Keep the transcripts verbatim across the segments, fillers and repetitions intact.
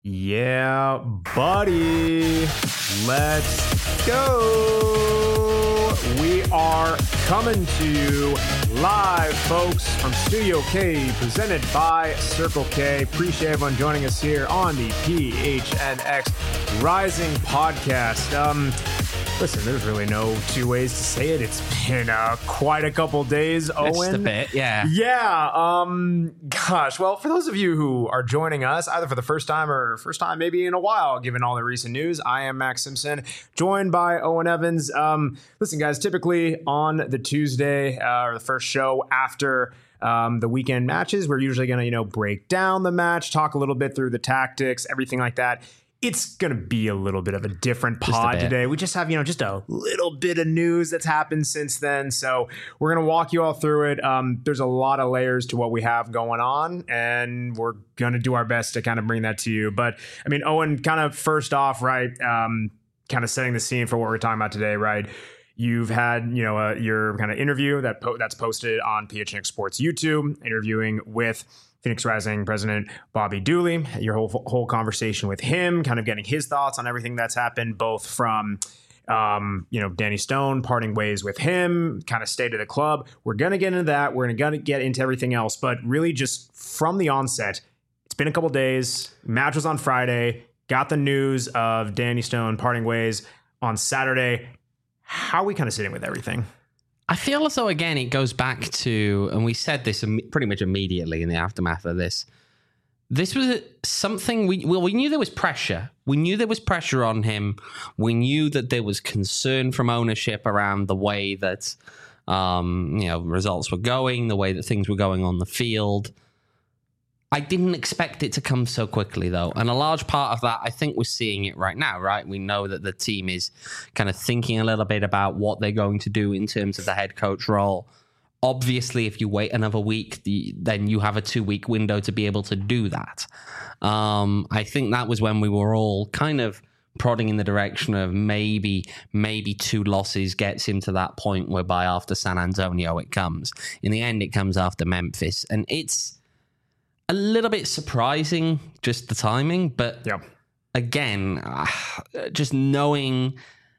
Yeah, buddy. Let's go. We are coming to you live, folks, from Studio K, presented by Circle K. Appreciate everyone joining us here on the P H N X Rising podcast. Um, listen, there's really no two ways to say it. It's been uh, quite a couple days, Owen. Just a bit, yeah. Yeah. Um. Gosh. Well, for those of you who are joining us, either for the first time or first time maybe in a while, given all the recent news, I am Max Simpson, joined by Owen Evans. Um. Listen, guys. Typically on the Tuesday uh, or the first show after um, the weekend matches, we're usually going to you know break down the match, talk a little bit through the tactics, everything like that. It's going to be a little bit of a different pod a today. We just have, you know, just a little bit of news that's happened since then. So we're going to walk you all through it. Um, there's a lot of layers to what we have going on, and we're going to do our best to kind of bring that to you. But I mean, Owen, kind of first off, right, um, kind of setting the scene for what we're talking about today, right? You've had, you know, uh, your kind of interview that po- that's posted on P H N X Sports YouTube, interviewing with Phoenix Rising president Bobby Dooley, your whole whole conversation with him, kind of getting his thoughts on everything that's happened, both from, um, you know, Danny Stone parting ways with him, kind of state of the club. We're going to get into that. We're going to get into everything else. But really just from the onset, it's been a couple days. Match was on Friday. Got the news of Danny Stone parting ways on Saturday. How are we kind of sitting with everything? I feel as though, again, it goes back to, and we said this pretty much immediately in the aftermath of this, this was something, we well, we knew there was pressure. We knew there was pressure on him. We knew that there was concern from ownership around the way that um, you know results were going, the way that things were going on the field. I didn't expect it to come so quickly, though. And a large part of that, I think we're seeing it right now, right? We know that the team is kind of thinking a little bit about what they're going to do in terms of the head coach role. Obviously, if you wait another week, the, then you have a two-week window to be able to do that. Um, I think that was when we were all kind of prodding in the direction of maybe maybe two losses gets him to that point whereby after San Antonio it comes. In the end, it comes after Memphis. And it's a little bit surprising, just the timing, but yep. again, uh, just knowing,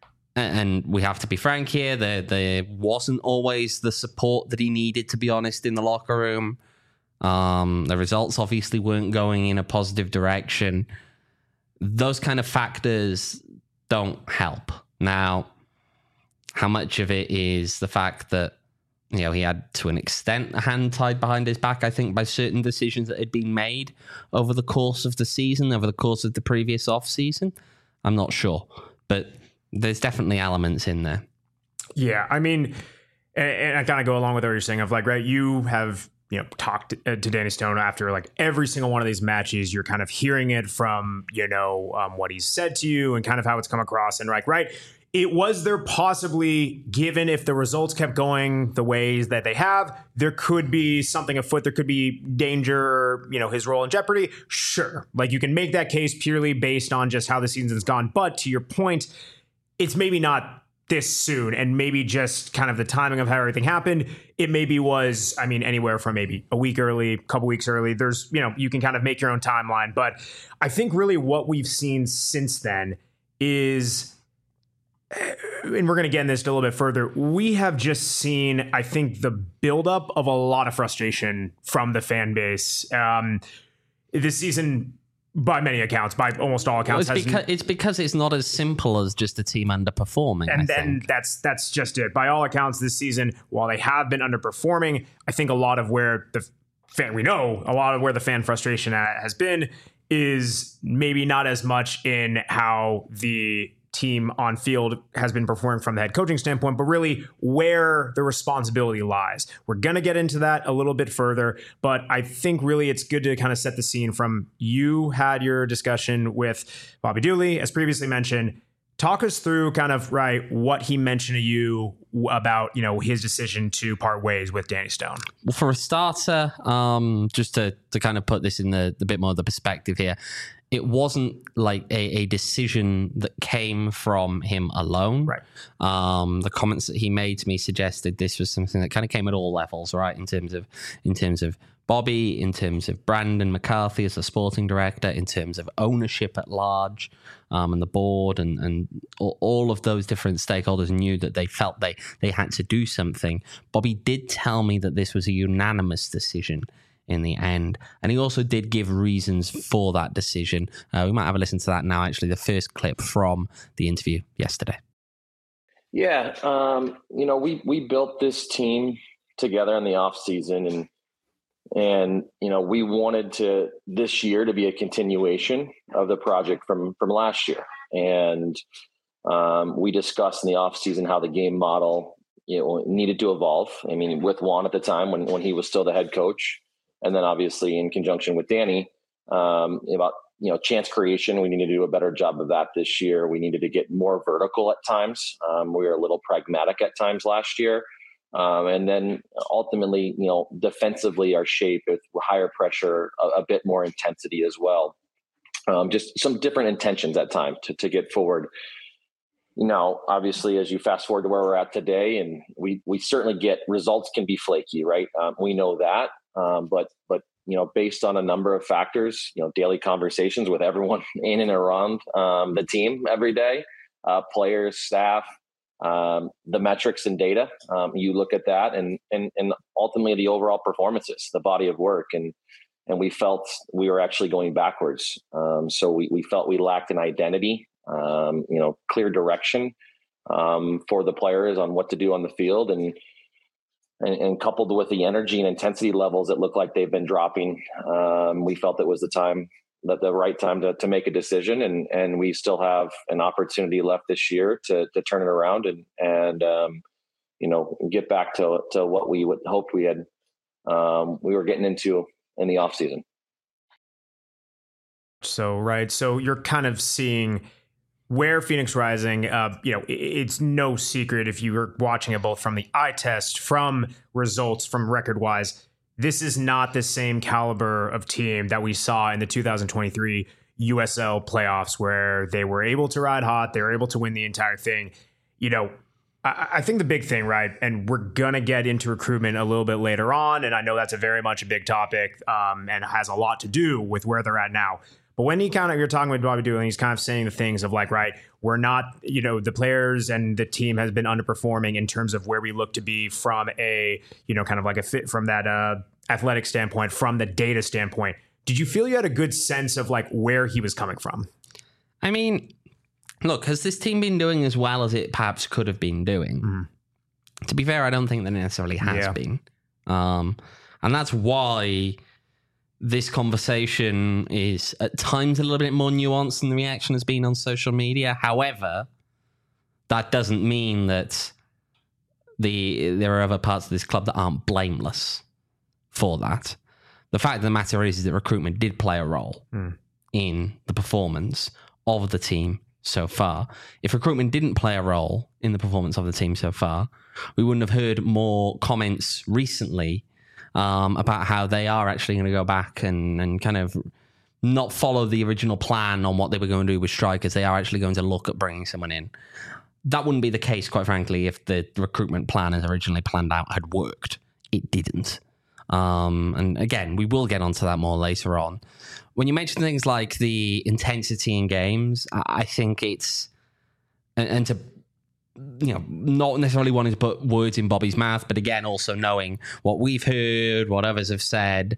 and we have to be frank here, there, there wasn't always the support that he needed, to be honest, in the locker room. Um, the results obviously weren't going in a positive direction. Those kind of factors don't help. Now, how much of it is the fact that you know, he had, to an extent, a hand tied behind his back, I think, by certain decisions that had been made over the course of the season, over the course of the previous off-season? I'm not sure. But there's definitely elements in there. Yeah, I mean, and, and I kind of go along with what you're saying of like, right, you have, you know, talked to, uh, to Danny Stone after like every single one of these matches. You're kind of hearing it from, you know, um, what he's said to you and kind of how it's come across. And like, right, it was there possibly, given if the results kept going the ways that they have, there could be something afoot. There could be danger, you know, his role in jeopardy. Sure. Like you can make that case purely based on just how the season's gone. But to your point, it's maybe not this soon, and maybe just kind of the timing of how everything happened. It maybe was, I mean, anywhere from maybe a week early, a couple weeks early. There's, you know, you can kind of make your own timeline. But I think really what we've seen since then is, and we're going to get in this a little bit further, we have just seen, I think, the buildup of a lot of frustration from the fan base. Um, this season, by many accounts, by almost all accounts, well, it's, has, because, it's because it's not as simple as just a team underperforming. And I then think. that's that's just it. By all accounts, this season, while they have been underperforming, I think a lot of where the fan, we know, a lot of where the fan frustration has been is maybe not as much in how the team on field has been performing from the head coaching standpoint, but really where the responsibility lies. We're going to get into that a little bit further, but I think really it's good to kind of set the scene from you had your discussion with Bobby Dooley, as previously mentioned. Talk us through kind of, right, what he mentioned to you about, you know, his decision to part ways with Danny Stone. Well, for a starter, um, just to, to kind of put this in the, the bit more of the perspective here, it wasn't like a, a decision that came from him alone. Right. Um, the comments that he made to me suggested this was something that kind of came at all levels, right? In terms of in terms of Bobby, in terms of Brandon McCarthy as the sporting director, in terms of ownership at large, um, and the board and, and all of those different stakeholders knew that they felt they, they had to do something. Bobby did tell me that this was a unanimous decision in the end. And he also did give reasons for that decision. Uh, we might have a listen to that now, actually, the first clip from the interview yesterday. Yeah, um, you know, we we built this team together in the off season, and and you know, we wanted to this year to be a continuation of the project from from last year. And um, we discussed in the off season how the game model, you know, needed to evolve. I mean, with Juan at the time when when he was still the head coach, and then obviously in conjunction with Danny, um, about you know, chance creation. We need to do a better job of that this year. We needed to get more vertical at times. Um, we were a little pragmatic at times last year. Um, and then ultimately, you know, defensively our shape with higher pressure, a, a bit more intensity as well. Um, just some different intentions at times to, to get forward. You know, obviously, as you fast forward to where we're at today, and we, we certainly get results can be flaky, right? Um, we know that, um, but, but, you know, based on a number of factors, you know, daily conversations with everyone in and around um, the team every day, uh, players, staff, um, the metrics and data. Um, you look at that, and and and ultimately the overall performances, the body of work, and and we felt we were actually going backwards. Um, so we we felt we lacked an identity, um, you know, clear direction um, for the players on what to do on the field, and. And, and coupled with the energy and intensity levels that look like they've been dropping, um, we felt it was the time, that the right time to, to make a decision. And, and we still have an opportunity left this year to, to turn it around and, and um, you know, get back to, to what we would hoped we had, um, we were getting into in the off season. So, right. So you're kind of seeing where Phoenix Rising, uh, you know, it's no secret if you were watching it both from the eye test, from results, from record-wise, this is not the same caliber of team that we saw in the two thousand twenty-three U S L playoffs where they were able to ride hot, they were able to win the entire thing. You know, I, I think the big thing, right, and we're going to get into recruitment a little bit later on, and I know that's a very much a big topic um, and has a lot to do with where they're at now. But when he kind of, you're talking with Bobby Doolin, he's kind of saying the things of like, right, we're not, you know, the players and the team has been underperforming in terms of where we look to be from a, you know, kind of like a fit from that uh, athletic standpoint, from the data standpoint. Did you feel you had a good sense of like where he was coming from? I mean, look, has this team been doing as well as it perhaps could have been doing? Mm. To be fair, I don't think that it necessarily has yeah. been. Um, and that's why this conversation is at times a little bit more nuanced than the reaction has been on social media. However, that doesn't mean that the there are other parts of this club that aren't blameless for that. The fact of the matter is, is that recruitment did play a role mm. in the performance of the team so far. If recruitment didn't play a role in the performance of the team so far, we wouldn't have heard more comments recently Um, about how they are actually going to go back and, and kind of not follow the original plan on what they were going to do with strikers. They are actually going to look at bringing someone in. That wouldn't be the case, quite frankly, if the recruitment plan as originally planned out had worked. It didn't. Um, and again, we will get onto that more later on. When you mention things like the intensity in games, I think it's, and, and to you know, not necessarily wanting to put words in Bobby's mouth, but again, also knowing what we've heard, what others have said,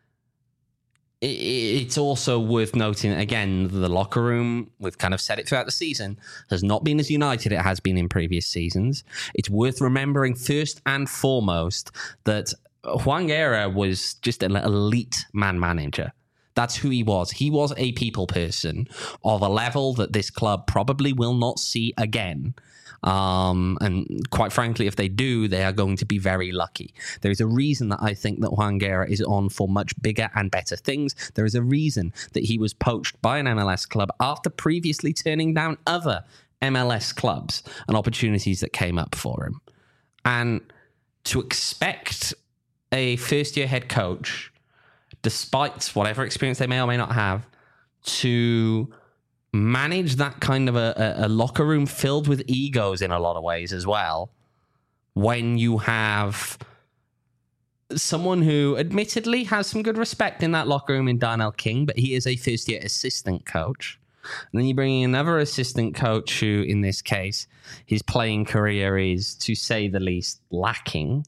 it's also worth noting, again, the locker room, we've kind of said it throughout the season, has not been as united it has been in previous seasons. It's worth remembering first and foremost that Juan Guerra was just an elite man manager. That's who he was. He was a people person of a level that this club probably will not see again. Um, and quite frankly, if they do, they are going to be very lucky. There is a reason that I think that Juan Guerra is on for much bigger and better things. There is a reason that he was poached by an M L S club after previously turning down other M L S clubs and opportunities that came up for him. And to expect a first-year head coach, despite whatever experience they may or may not have, to manage that kind of a, a, a locker room filled with egos in a lot of ways as well, when you have someone who admittedly has some good respect in that locker room in Darnell King, but he is a first-year assistant coach. And then you bring in another assistant coach who, in this case, his playing career is, to say the least, lacking.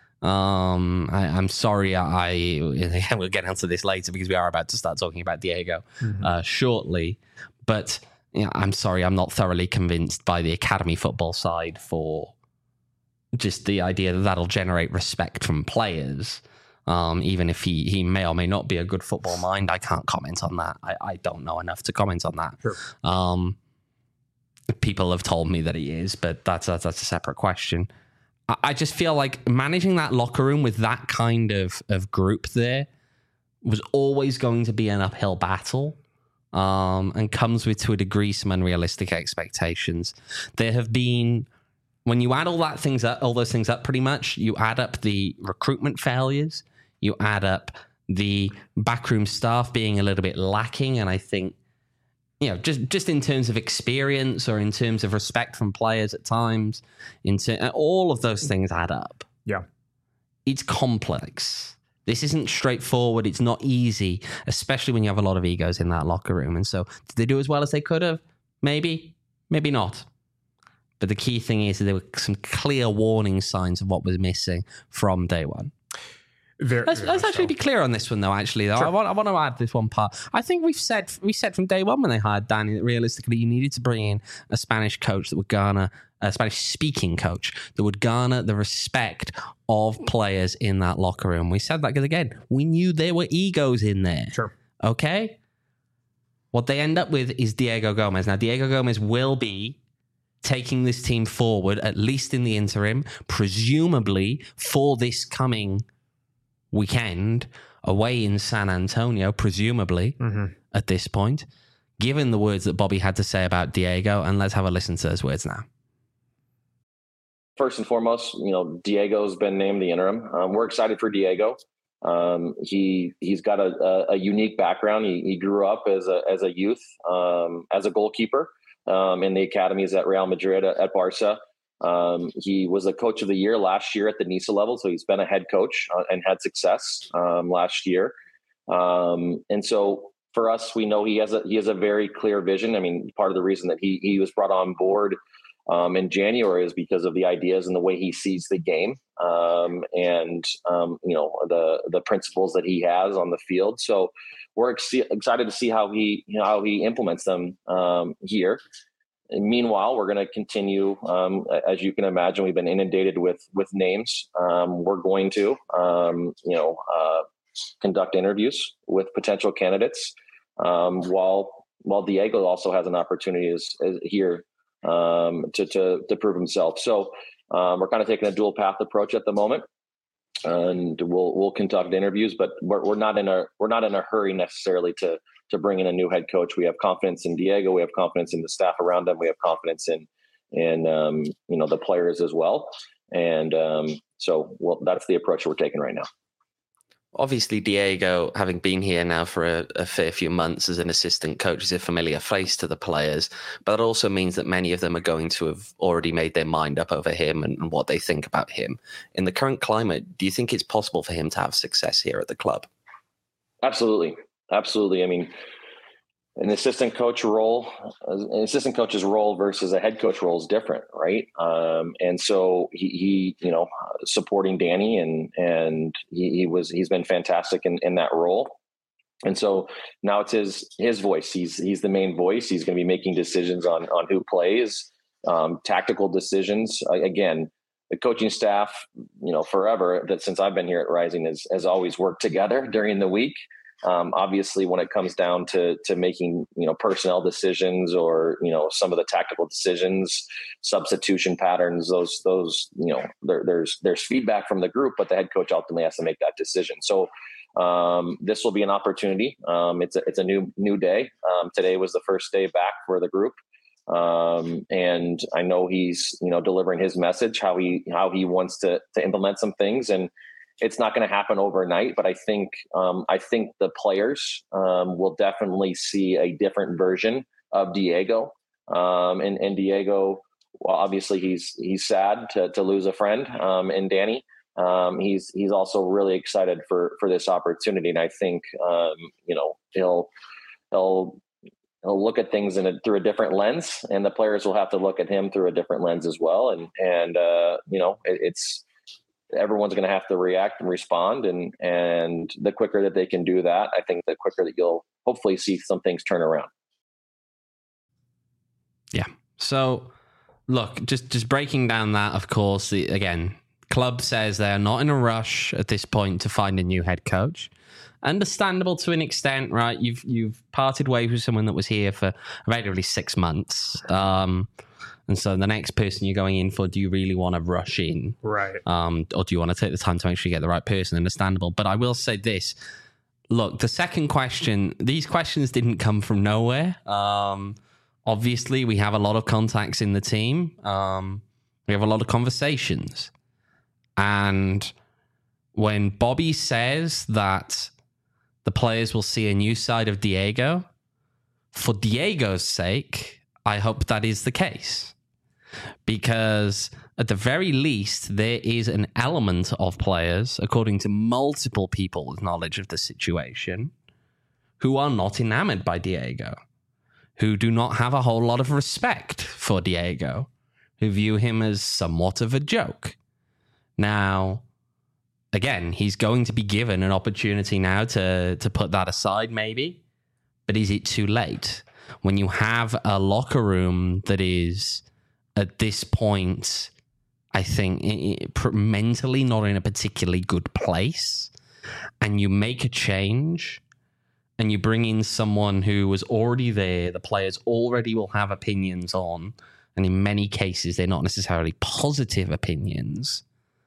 Um, I, I'm sorry, I, I we'll get onto this later because we are about to start talking about Diego mm-hmm. uh, shortly. But you know, I'm sorry, I'm not thoroughly convinced by the academy football side for just the idea that that'll generate respect from players. Um, even if he, he may or may not be a good football mind, I can't comment on that. I, I don't know enough to comment on that. Sure. Um, people have told me that he is, but that's, that's, that's a separate question. I, I just feel like managing that locker room with that kind of, of group there was always going to be an uphill battle, um, and comes with, to a degree, some unrealistic expectations. There have been... When you add all that things up, all those things up, pretty much, you add up the recruitment failures, you add up the backroom staff being a little bit lacking, and I think, you know, just just in terms of experience or in terms of respect from players at times, into all of those things add up. Yeah, it's complex. This isn't straightforward. It's not easy, especially when you have a lot of egos in that locker room. And so, did they do as well as they could have? Maybe, maybe not. But the key thing is that there were some clear warning signs of what was missing from day one. Very, let's very let's actually so. be clear on this one, though. Actually, though, Sure. I want I want to add this one part. I think we've said we said from day one when they hired Danny that realistically you needed to bring in a Spanish coach that would garner a Spanish-speaking coach that would garner the respect of players in that locker room. We said that because again, we knew there were egos in there. Sure. Okay. What they end up with is Diego Gomez. Now, Diego Gomez will be taking this team forward, at least in the interim, presumably for this coming weekend away in San Antonio, presumably mm-hmm. at this point, given the words that Bobby had to say about Diego. And let's have a listen to those words now. First and foremost, you know, Diego's been named the interim. Um, we're excited for Diego. Um, he, he's got a, a, a unique background. He, he grew up as a, as a youth, um, as a goalkeeper. Um, in the academies at Real Madrid, at, at Barca. Um, he was a coach of the year last year at the Niça level. So he's been a head coach uh, and had success um, last year. Um, and so for us, we know he has a, he has a very clear vision. I mean, part of the reason that he, he was brought on board um, in January is because of the ideas and the way he sees the game um, and, um, you know, the, the principles that he has on the field. So we're ex- excited to see how he, you know, how he implements them um, here. And meanwhile, we're going to continue, um, as you can imagine, we've been inundated with with names. Um, we're going to, um, you know, uh, conduct interviews with potential candidates, um, while while Diego also has an opportunity as, as here um, to, to to prove himself. So um, we're kind of taking a dual path approach at the moment. And we'll we'll conduct interviews, but we're we're not in a we're not in a hurry necessarily to to bring in a new head coach. We have confidence in Diego. We have confidence in the staff around him. We have confidence in in um, you know the players as well. And um, so, well, that's the approach we're taking right now. Obviously, Diego, having been here now for a, a fair few months as an assistant coach, is a familiar face to the players. But it also means that many of them are going to have already made their mind up over him and, and what they think about him. In the current climate, do you think it's possible for him to have success here at the club? Absolutely. Absolutely. I mean, an assistant coach role, an assistant coach's role versus a head coach role is different, right? Um, and so he, he, you know, supporting Danny and and he, he was he's been fantastic in, in that role. And so now it's his his voice. He's he's the main voice. He's going to be making decisions on on who plays, um, tactical decisions. Uh, again, the coaching staff, you know, forever that since I've been here at Rising has has always worked together during the week. Um, obviously, when it comes down to to making you know personnel decisions or you know some of the tactical decisions, substitution patterns, those those you know there, there's there's feedback from the group, but the head coach ultimately has to make that decision. So um, this will be an opportunity. Um, it's a it's a new new day. Um, today was the first day back for the group, um, and I know he's you know delivering his message, how he how he wants to to implement some things and. It's not going to happen overnight, but I think um, I think the players um, will definitely see a different version of Diego. Um, and, and Diego, well, obviously he's he's sad to, to lose a friend um, in Danny, um, he's he's also really excited for for this opportunity. And I think um, you know he'll he'll he'll look at things in a, through a different lens, and the players will have to look at him through a different lens as well. And and uh, you know it, it's everyone's going to have to react and respond, and and the quicker that they can do that, I think the quicker that you'll hopefully see some things turn around. Yeah. So, look, just just breaking down that, of course, the, again, club says they're not in a rush at this point to find a new head coach. Understandable to an extent, right? You've you've parted ways with someone that was here for effectively six months. Um, and so the next person you're going in for, do you really want to rush in? Right. Um, or do you want to take the time to make sure you get the right person? Understandable. But I will say this. Look, the second question, these questions didn't come from nowhere. Um, obviously, we have a lot of contacts in the team. Um, we have a lot of conversations. And when Bobby says that the players will see a new side of Diego, for Diego's sake, I hope that is the case. Because at the very least, there is an element of players, according to multiple people with knowledge of the situation, who are not enamored by Diego, who do not have a whole lot of respect for Diego, who view him as somewhat of a joke. Now, again, he's going to be given an opportunity now to, to put that aside, maybe. But is it too late? When you have a locker room that is, at this point, I think, it, it, mentally not in a particularly good place, and you make a change, and you bring in someone who was already there, the players already will have opinions on, and in many cases, they're not necessarily positive opinions.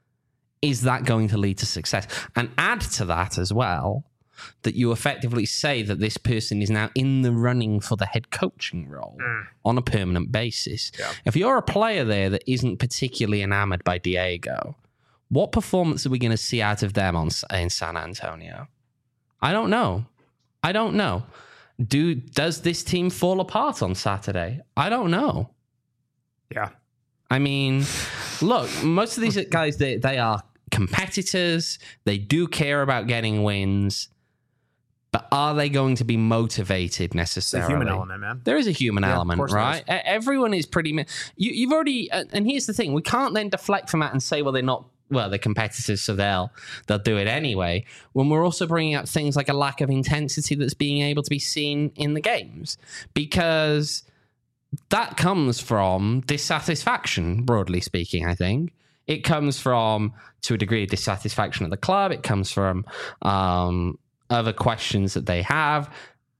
Is that going to lead to success? And add to that as well, that you effectively say that this person is now in the running for the head coaching role mm. on a permanent basis. Yeah. If you're a player there that isn't particularly enamored by Diego, what performance are we going to see out of them on in San Antonio? I don't know. I don't know. Do does this team fall apart on Saturday? I don't know. Yeah. I mean, look, most of these guys, they, they are competitors. They do care about getting wins. But are they going to be motivated necessarily? It's a human element, man. There is a human yeah, element, right? Is. Everyone is pretty... You, you've already... And here's the thing. We can't then deflect from that and say, well, they're not... Well, they're competitors, so they'll, they'll do it anyway. When we're also bringing up things like a lack of intensity that's being able to be seen in the games. Because that comes from dissatisfaction, broadly speaking, I think. It comes from, to a degree, dissatisfaction at the club. It comes from... Um, other questions that they have.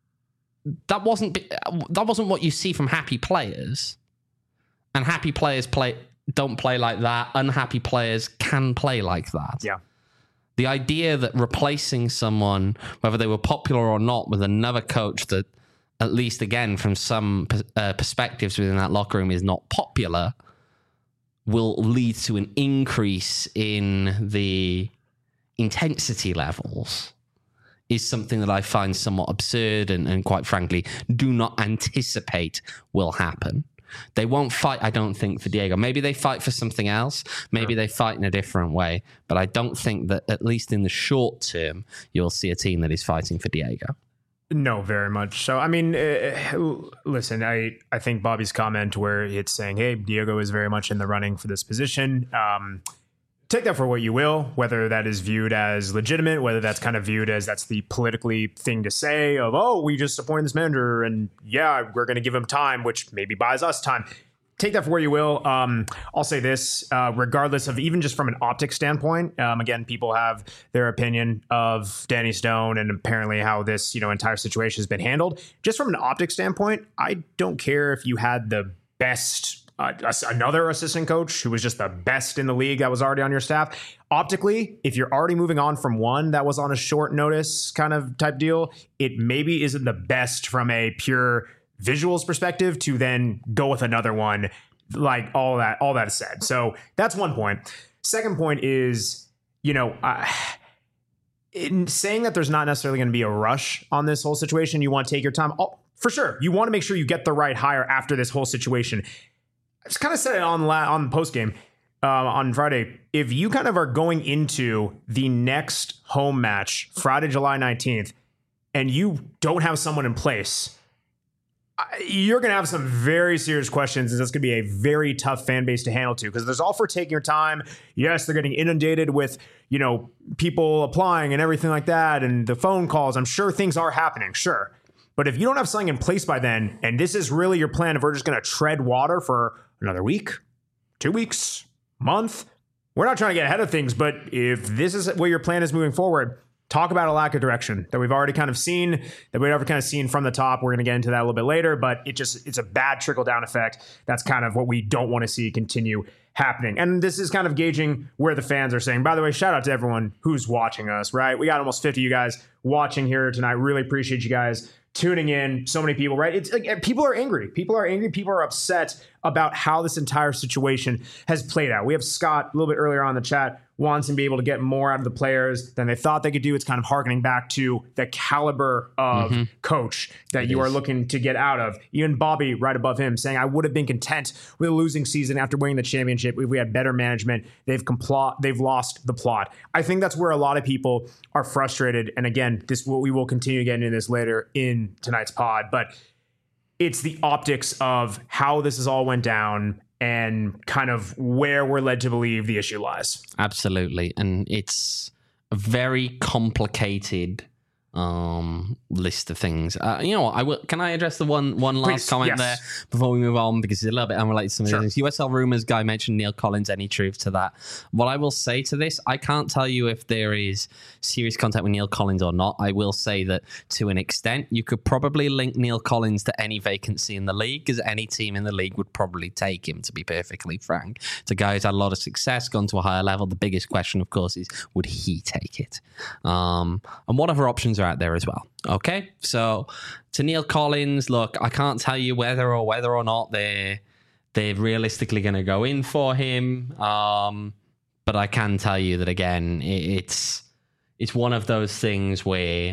That wasn't that wasn't what you see from happy players. And happy players play don't play like that. Unhappy players can play like that. Yeah. The idea that replacing someone, whether they were popular or not, with another coach that, at least again from some uh, perspectives within that locker room, is not popular, will lead to an increase in the intensity levels, is something that I find somewhat absurd and, and quite frankly, do not anticipate will happen. They won't fight, I don't think, for Diego. Maybe they fight for something else. Maybe they fight in a different way. But I don't think that, at least in the short term, you'll see a team that is fighting for Diego. No, very much so. I mean, uh, listen, I, I think Bobby's comment where it's saying, hey, Diego is very much in the running for this position. Um, Take that for what you will, whether that is viewed as legitimate, whether that's kind of viewed as that's the politically thing to say of, oh, we just appointed this manager and yeah, we're going to give him time, which maybe buys us time. Take that for where you will. Um, I'll say this, uh, regardless of even just from an optic standpoint. Um, again, people have their opinion of Danny Stone and apparently how this, you know, entire situation has been handled. Just from an optic standpoint, I don't care if you had the best Uh, another assistant coach who was just the best in the league that was already on your staff. Optically, if you're already moving on from one that was on a short notice kind of type deal, it maybe isn't the best from a pure visuals perspective to then go with another one, like all that, all that is said. So that's one point. Second point is, you know, uh, in saying that there's not necessarily going to be a rush on this whole situation, you want to take your time. Oh, for sure. You want to make sure you get the right hire after this whole situation. I just kind of said it on la- on the post game. uh, on Friday, if you kind of are going into the next home match, Friday, July nineteenth, and you don't have someone in place, you're going to have some very serious questions, and that's going to be a very tough fan base to handle too, because there's all for taking your time. Yes, they're getting inundated with, you know, people applying and everything like that, and the phone calls. I'm sure things are happening, sure. But if you don't have something in place by then, and this is really your plan, if we're just going to tread water for another week, two weeks, month, we're not trying to get ahead of things, but if this is what your plan is moving forward, talk about a lack of direction that we've already kind of seen, that we've ever kind of seen from the top. We're going to get into that a little bit later, but it just, it's a bad trickle down effect. That's kind of what we don't want to see continue happening. And this is kind of gauging where the fans are saying. By the way, shout out to everyone who's watching us, right? We got almost fifty of you guys watching here tonight. Really appreciate you guys tuning in. So many people, right? It's like people are angry. People are angry. People are upset about how this entire situation has played out. We have Scott a little bit earlier on in the chat wants to be able to get more out of the players than they thought they could do. It's kind of harkening back to the caliber of mm-hmm. coach that it you is. are looking to get out of. Even Bobby right above him saying, I would have been content with a losing season after winning the championship if we had better management. They've compl- they've lost the plot. I think that's where a lot of people are frustrated. And again, this will, we will continue getting into this later in tonight's pod, but it's the optics of how this has all went down and kind of where we're led to believe the issue lies. Absolutely. And it's a very complicated um, list of things. Uh, you know what? I will, can I address the one one last Please, comment yes. there before we move on? Because it's a little bit unrelated to some of sure. the things. U S L Rumors guy mentioned Neil Collins. Any truth to that? What I will say to this, I can't tell you if there is serious contact with Neil Collins or not. I will say that to an extent, you could probably link Neil Collins to any vacancy in the league, because any team in the league would probably take him, to be perfectly frank. It's a guy who's had a lot of success, gone to a higher level. The biggest question, of course, is would he take it? Um, and what other options are out there as well? Okay, so to Neil Collins, look, I can't tell you whether or whether or not they're they're realistically going to go in for him, um, but I can tell you that again, it, it's it's one of those things where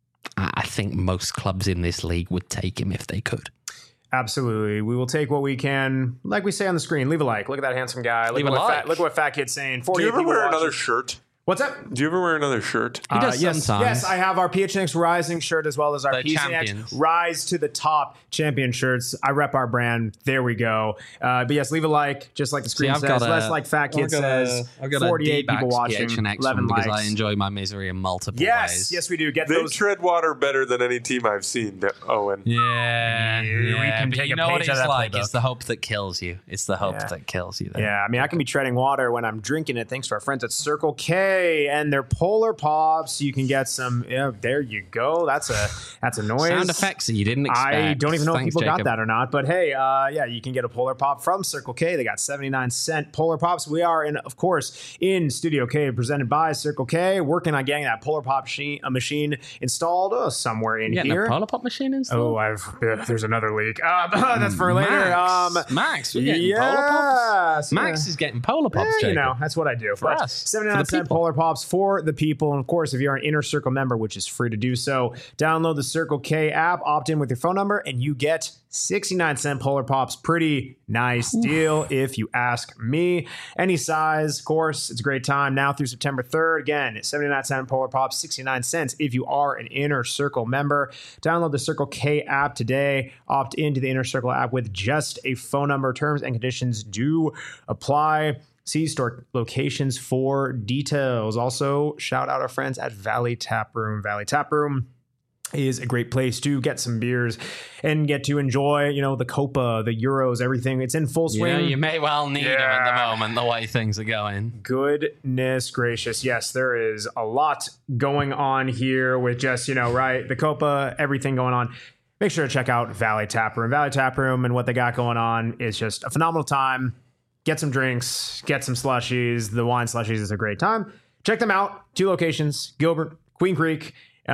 I think most clubs in this league would take him if they could. Absolutely. We will take what we can. Like we say on the screen, leave a like. Look at that handsome guy. Look, leave at, a what like. fat, look at what Fat Kid's saying. Do you ever wear watching. another shirt? What's that? Do you ever wear another shirt? He does uh, yes, sometimes. yes, I have our P H N X Rising shirt as well as our the P H N X Rise to the Top champion shirts. I rep our brand. There we go. Uh, but yes, leave a like, just like the screen See, says. A, Less like Fat Kid says. A, I've got forty-eight people watching. eleven because likes. I enjoy my misery in multiple yes, ways. Yes, we do. Get they those. tread water better than any team I've seen, Owen. Yeah, yeah, we can but take you a know what page it's out of that like. playbook. It's the hope that kills you. It's the hope Yeah. that kills you. There. Yeah, I mean, I can be treading water when I'm drinking it, thanks to our friends at Circle K and their Polar Pops. You can get some. Yeah, there you go. That's a that's a noise. Sound effects that you didn't expect. I don't even know Thanks, if people Jacob. got that or not. But hey, uh, yeah, you can get a Polar Pop from Circle K. They got seventy-nine cent Polar Pops. We are in, of course, in Studio K, presented by Circle K, working on getting that Polar Pop machine, a machine installed uh, somewhere in you here. A Polar Pop machine installed? Oh, I've uh, there's another leak. Uh, that's for later. Max, Um, Max, we're getting yes, Polar Pops. yeah. Max is getting Polar Pops. Yeah, you Jacob. know, that's what I do for But us. for seventy-nine the cent people. Polar Pops for the people. And of course, if you're an Inner Circle member, which is free to do so, download the Circle K app, opt in with your phone number, and you get sixty-nine cent Polar Pops. Pretty nice deal, if you ask me. Any size, of course, it's a great time now through September third. Again, seventy-nine cent Polar Pops, sixty-nine cents if you are an Inner Circle member. Download the Circle K app today. Opt into the Inner Circle app with just a phone number. Terms and conditions do apply. See store locations for details. Also, shout out our friends at Valley Tap Room. Valley Tap Room is a great place to get some beers and get to enjoy, you know, the Copa, the Euros, everything. It's in full swing. Yeah, you may well need Yeah. them at the moment, the way things are going. Goodness gracious. Yes, there is a lot going on here with just, you know, right, the Copa, everything going on. Make sure to check out Valley Tap Room. Valley Tap Room and what they got going on is just a phenomenal time. Get some drinks, get some slushies. The wine slushies is a great time. Check them out. Two locations, Gilbert, Queen Creek.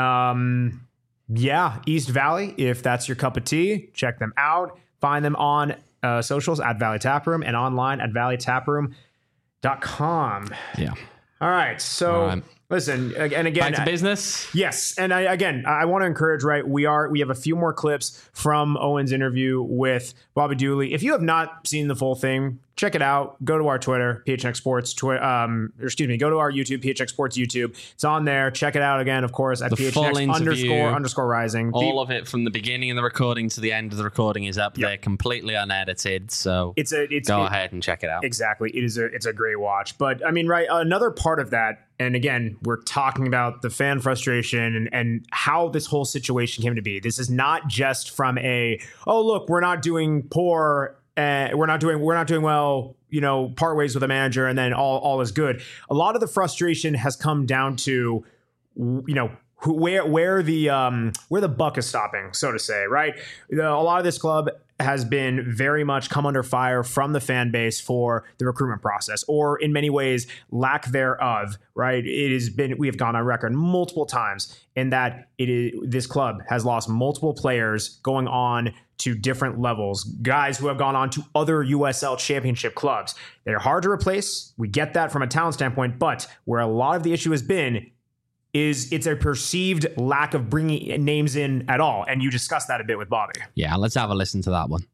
Um, yeah, East Valley, if that's your cup of tea. Check them out. Find them on uh, socials at Valley Tap Room and online at valley tap room dot com. Yeah. All right, so All right. Listen, and again, Back to business. Yes, and I, again, I want to encourage. Right, we are we have a few more clips from Owen's interview with Bobby Dooley. If you have not seen the full thing, check it out. Go to our Twitter, P H N X Sports. Twi- um, or excuse me, go to our YouTube, P H N X Sports YouTube. It's on there. Check it out again, of course, at The P H N full X interview, underscore underscore rising. All The- of it from the beginning of the recording to the end of the recording is up Yep. there, completely unedited. So it's a it's go it- ahead and check it out. Exactly. It is a it's a great watch. But I mean, right, another part of that, and again, we're talking about the fan frustration and, and how this whole situation came to be. This is not just from a, oh, look, we're not doing poor, uh, we're not doing we're not doing well, you know, part ways with a manager and then all all is good. A lot of the frustration has come down to, you know, who, where where the um, where the buck is stopping, so to say, right? The, a lot of this club has been very much come under fire from the fan base for the recruitment process, or in many ways lack thereof, right? It has been, we have gone on record multiple times in that it is, this club has lost multiple players going on to different levels, guys who have gone on to other U S L championship clubs. They're hard to replace. We get that from a talent standpoint, but where a lot of the issue has been is it's a perceived lack of bringing names in at all. And you discussed that a bit with Bobby. Yeah, let's have a listen to that one.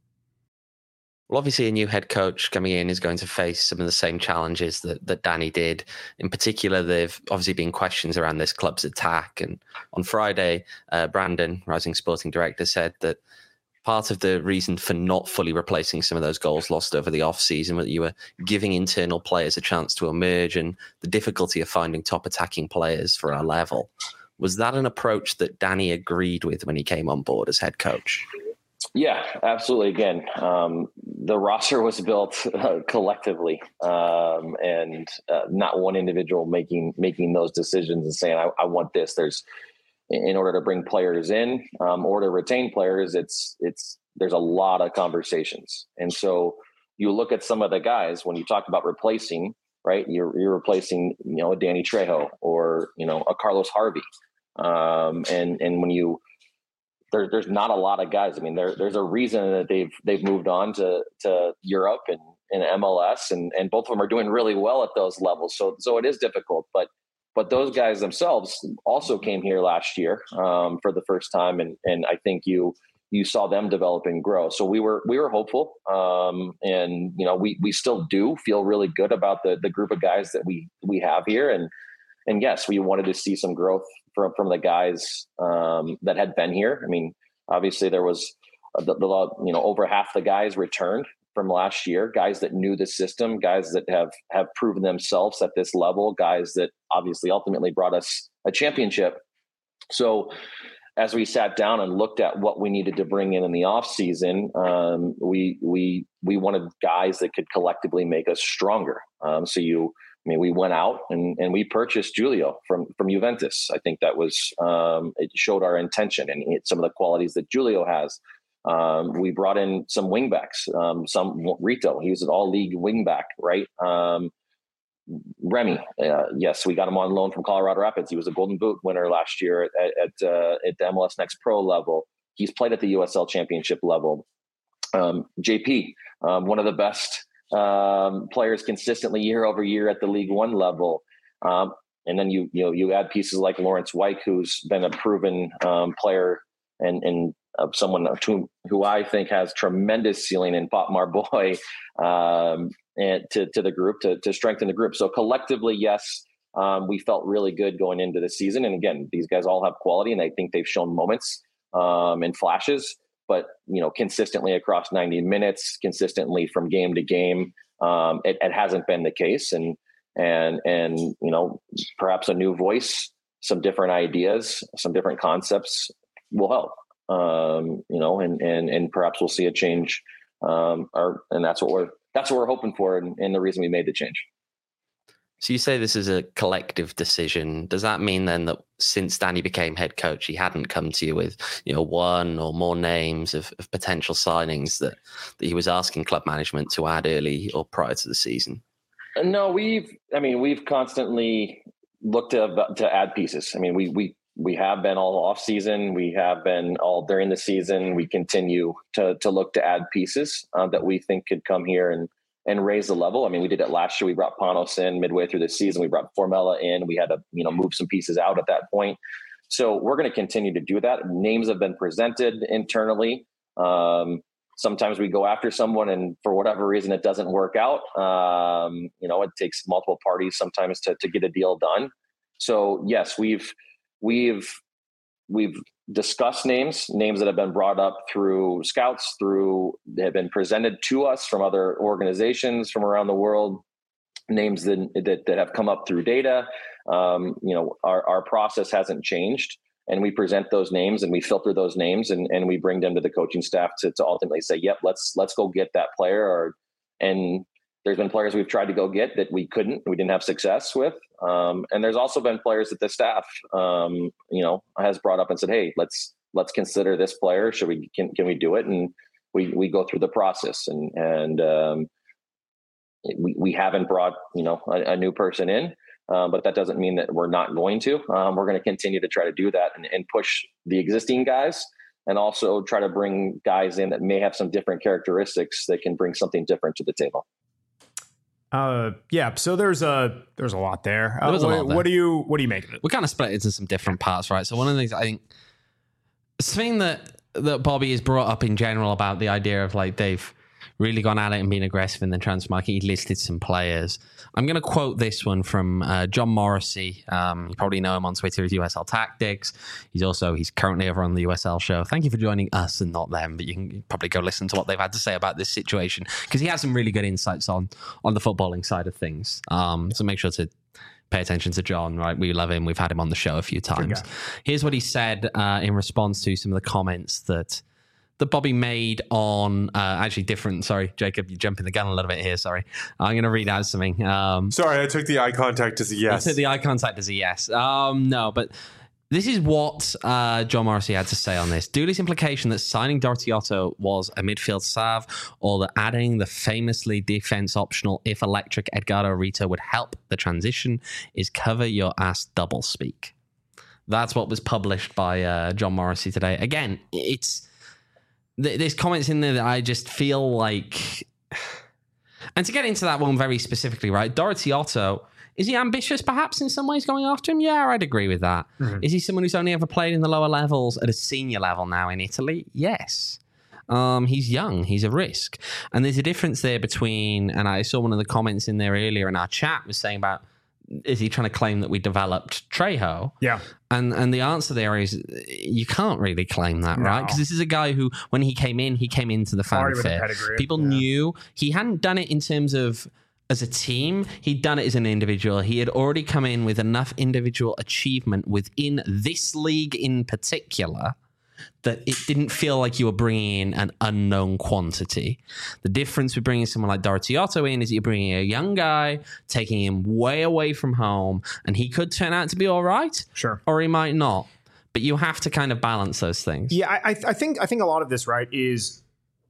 Well, obviously, a new head coach coming in is going to face some of the same challenges that, that Danny did. In particular, there've obviously been questions around this club's attack. And on Friday, uh, Brandon, Rising Sporting Director, said that part of the reason for not fully replacing some of those goals lost over the offseason was that you were giving internal players a chance to emerge, and the difficulty of finding top attacking players for our level. Was that an approach that Danny agreed with when he came on board as head coach? Yeah, absolutely. Again, um, the roster was built uh, collectively, um, and uh, not one individual making making those decisions and saying, I, I want this. There's in order to bring players in um, or to retain players, it's it's there's a lot of conversations. And so you look at some of the guys when you talk about replacing, right? You're you're replacing, you know, a Danny Trejo or, you know, a Carlos Harvey. Um, and and when you there, there's not a lot of guys. I mean, there there's a reason that they've they've moved on to to Europe and, and M L S, and and both of them are doing really well at those levels. So so it is difficult, but But those guys themselves also came here last year um, for the first time, and and I think you you saw them develop and grow. So we were we were hopeful, um, and you know we we still do feel really good about the the group of guys that we we have here, and and yes, we wanted to see some growth from from the guys um, that had been here. I mean, obviously there was the, the you know over half the guys returned from last year, guys that knew the system, guys that have have proven themselves at this level, guys that obviously ultimately brought us a championship. So as we sat down and looked at what we needed to bring in in the off season, um, we we we wanted guys that could collectively make us stronger. Um, so you, I mean, we went out and, and we purchased Julio from from Juventus. I think that was um, it showed our intention and some of the qualities that Julio has. Um, we brought in some wingbacks, um, some Rito. He was an all-league wingback, right? Um, Remy, uh, yes, we got him on loan from Colorado Rapids. He was a Golden Boot winner last year at at, uh, at the M L S Next Pro level. He's played at the U S L Championship level. Um, J P, um, one of the best um, players consistently year over year at the League One level. Um, and then you you know you add pieces like Lawrence White, who's been a proven um, player and and of someone who, who I think has tremendous ceiling in Pop Marboy um, and to, to the group to, to strengthen the group. So collectively, yes, um, we felt really good going into the season. And again, these guys all have quality and I think they've shown moments um, and flashes, but you know, consistently across ninety minutes, consistently from game to game, um, it, it hasn't been the case. And, and, and, you know, perhaps a new voice, some different ideas, some different concepts will help. Um, you know, and, and, and perhaps we'll see a change. Um, or, and that's what we're, that's what we're hoping for. And, and the reason we made the change. So you say this is a collective decision. Does that mean then that since Danny became head coach, he hadn't come to you with, you know, one or more names of, of potential signings that, that he was asking club management to add early or prior to the season? No, we've, I mean, we've constantly looked to, to add pieces. I mean, we, we, We have been all off season. We have been all during the season. We continue to to look to add pieces uh, that we think could come here and and raise the level. I mean, we did it last year. We brought Panos in midway through the season. We brought Formella in. We had to, you know, move some pieces out at that point. So we're going to continue to do that. Names have been presented internally. Um, sometimes we go after someone and for whatever reason, it doesn't work out. Um, you know, it takes multiple parties sometimes to, to get a deal done. So yes, we've, we've, we've discussed names, names that have been brought up through scouts, through, they have been presented to us from other organizations from around the world, names that, that, that have come up through data. Um, you know, our, our process hasn't changed, and we present those names and we filter those names and, and we bring them to the coaching staff to, to ultimately say, yep, let's, let's go get that player. Or, and there's been players we've tried to go get that we couldn't, we didn't have success with. Um, and there's also been players that the staff, um, you know, has brought up and said, hey, let's, let's consider this player. Should we, can, can we do it? And we, we go through the process, and, and, um, we, we haven't brought, you know, a, a new person in, uh, but that doesn't mean that we're not going to, um, we're going to continue to try to do that and, and push the existing guys, and also try to bring guys in that may have some different characteristics that can bring something different to the table. Uh, yeah. So there's a there's a lot there. Uh, There was a what, lot there. what do you what do you make of it? We kind of split it into some different parts, right? So one of the things I think, something that that Bobby has brought up in general about the idea of like they've really gone at it and been aggressive in the transfer market. He listed some players. I'm going to quote this one from uh, John Morrissey. Um, you probably know him on Twitter as U S L Tactics. He's also, he's currently over on the U S L show. Thank you for joining us and not them, but you can probably go listen to what they've had to say about this situation, because he has some really good insights on, on the footballing side of things. Um, so make sure to pay attention to John, right? We love him. We've had him on the show a few times. Here's what he said uh, in response to some of the comments that that Bobby made on uh, actually different. Sorry, Jacob, you're jumping the gun a little bit here. Sorry. I'm going to read out something. Um, Sorry, I took the eye contact as a yes. I took the eye contact as a yes. Um, no, but this is what uh, John Morrissey had to say on this. Dooley's implication that signing Dorothy Otto was a midfield salve, or that adding the famously defense optional if electric Edgardo Rito would help the transition is cover your ass double speak. That's what was published by uh, John Morrissey today. Again, it's there's comments in there that I just feel like, and to get into that one very specifically, right? Dorothy Otto, is he ambitious perhaps in some ways going after him? Yeah, I'd agree with that. Mm-hmm. Is he someone who's only ever played in the lower levels at a senior level now in Italy? Yes. Um, he's young. He's a risk. And there's a difference there between, and I saw one of the comments in there earlier in our chat was saying about, is he trying to claim that we developed Trejo? Yeah. And and the answer there is you can't really claim that, no. right? Because this is a guy who, when he came in, he came into the fanfare. People yeah. knew he hadn't done it in terms of as a team. He'd done it as an individual. He had already come in with enough individual achievement within this league in particular that it didn't feel like you were bringing in an unknown quantity. The difference with bringing someone like Dorothy Otto in is you're bringing a young guy, taking him way away from home, and he could turn out to be all right. Sure. Or he might not. But you have to kind of balance those things. Yeah, I, I think I think a lot of this, right, is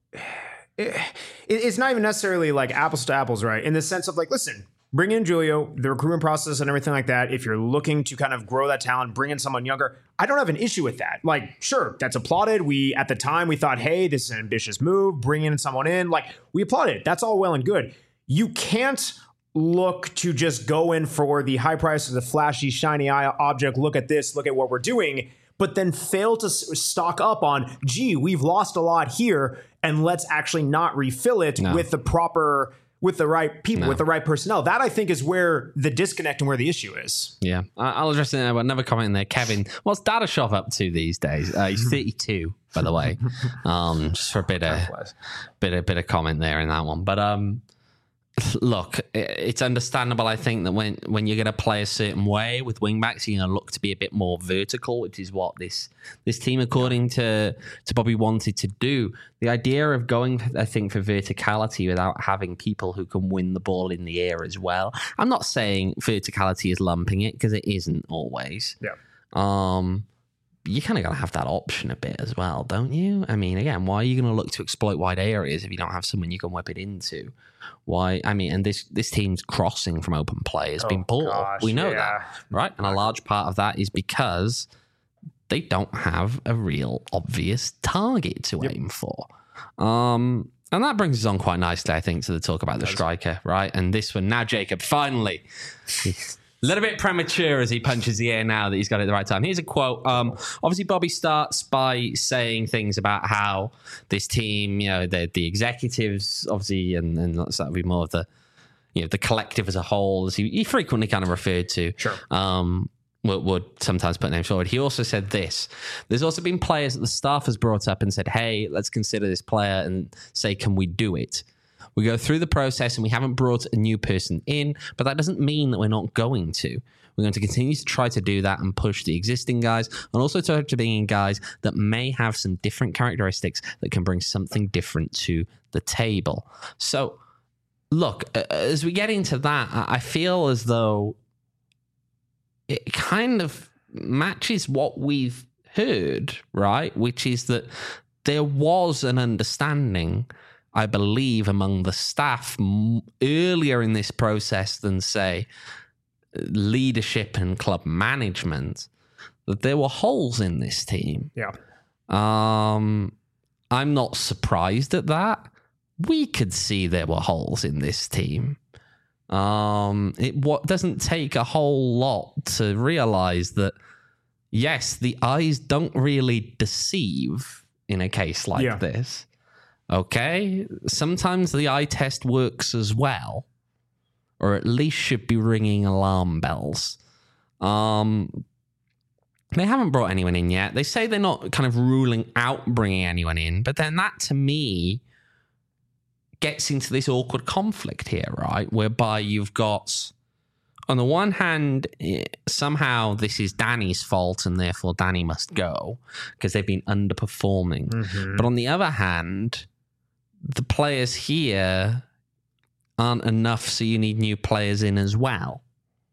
it, it's not even necessarily like apples to apples, right? In the sense of like, listen, bring in Julio, the recruitment process and everything like that. If you're looking to kind of grow that talent, bring in someone younger, I don't have an issue with that. Like, sure, that's applauded. We, at the time, we thought, hey, this is an ambitious move, bring in someone in. Like, we applauded it. That's all well and good. You can't look to just go in for the high price of the flashy, shiny eye object. Look at this, look at what we're doing, but then fail to stock up on, gee, we've lost a lot here, and let's actually not refill it no. with the proper... with the right people, no. with the right personnel. That, I think, is where the disconnect and where the issue is. Yeah. I'll address it. Another comment in there. Kevin, what's Dadashov up to these days? Uh, he's thirty-two, by the way. Um, just for a bit of, bit of, bit of comment there in that one. But um, look, it's understandable, I think, that when, when you're going to play a certain way with wingbacks, you're going to look to be a bit more vertical, which is what this this team, according to, to Bobby, wanted to do. The idea of going, I think, for verticality without having people who can win the ball in the air as well. I'm not saying verticality is lumping it, because it isn't always. Yeah. Um, you kind of got to have that option a bit as well, don't you? I mean, again, why are you going to look to exploit wide areas if you don't have someone you can whip it into? Why? I mean, and this this team's crossing from open play has oh, been poor. Gosh, we know yeah. that, right? And a large part of that is because they don't have a real obvious target to yep. aim for. Um, And that brings us on quite nicely, I think, to the talk about the striker, right? And this one, now Jacob, finally, a little bit premature as he punches the air now that he's got it at the right time. Here's a quote. Um, obviously, Bobby starts by saying things about how this team, you know, the, the executives, obviously, and, and that would be more of the, you know, the collective as a whole, as he, he frequently kind of referred to. Sure. Um, Would, would sometimes put names forward. He also said this. There's also been players that the staff has brought up and said, hey, let's consider this player and say, can we do it? We go through the process and we haven't brought a new person in, but that doesn't mean that we're not going to. We're going to continue to try to do that and push the existing guys and also try to bring in guys that may have some different characteristics that can bring something different to the table. So, look, as we get into that, I feel as though it kind of matches what we've heard, right? Which is that there was an understanding, I believe, among the staff m- earlier in this process than, say, leadership and club management, that there were holes in this team. Yeah. Um, I'm not surprised at that. We could see there were holes in this team. Um, it what doesn't take a whole lot to realize that, yes, the eyes don't really deceive in a case like Yeah. this. Okay? Sometimes the eye test works as well, or at least should be ringing alarm bells. Um, they haven't brought anyone in yet. They say they're not kind of ruling out bringing anyone in, but then that, to me, gets into this awkward conflict here, right? Whereby you've got, on the one hand, somehow this is Danny's fault and therefore Danny must go because they've been underperforming. Mm-hmm. But on the other hand, the players here aren't enough, so you need new players in as well.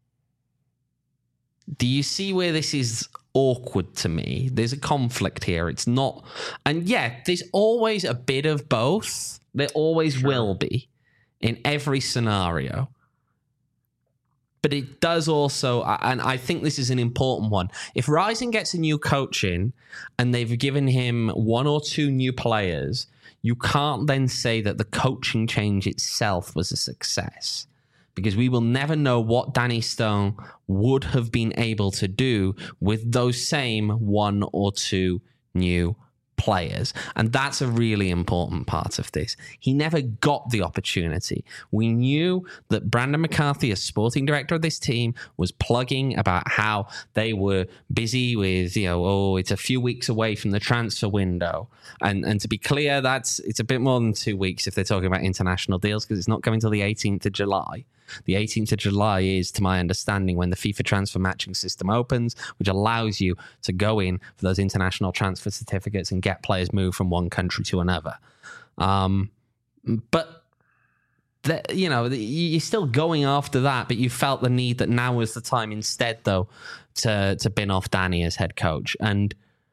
Do you see where this is awkward to me? There's a conflict here. It's not, and yeah, there's always a bit of both. There always sure. will be in every scenario. But it does also, and I think this is an important one. If Rising gets a new coach in and they've given him one or two new players, you can't then say that the coaching change itself was a success. Because we will never know what Danny Stone would have been able to do with those same one or two new players. And that's a really important part of this. He never got the opportunity. We knew that Brandon McCarthy, as sporting director of this team, was plugging about how they were busy with, you know, oh, it's a few weeks away from the transfer window. And and to be clear, that's it's a bit more than two weeks if they're talking about international deals, because it's not coming till the eighteenth of July. The eighteenth of July is, to my understanding, when the FIFA transfer matching system opens, which allows you to go in for those international transfer certificates and get players moved from one country to another. Um, but, the, you know, the, you're still going after that, but you felt the need that now was the time instead, though, to, to bin off Danny as head coach. And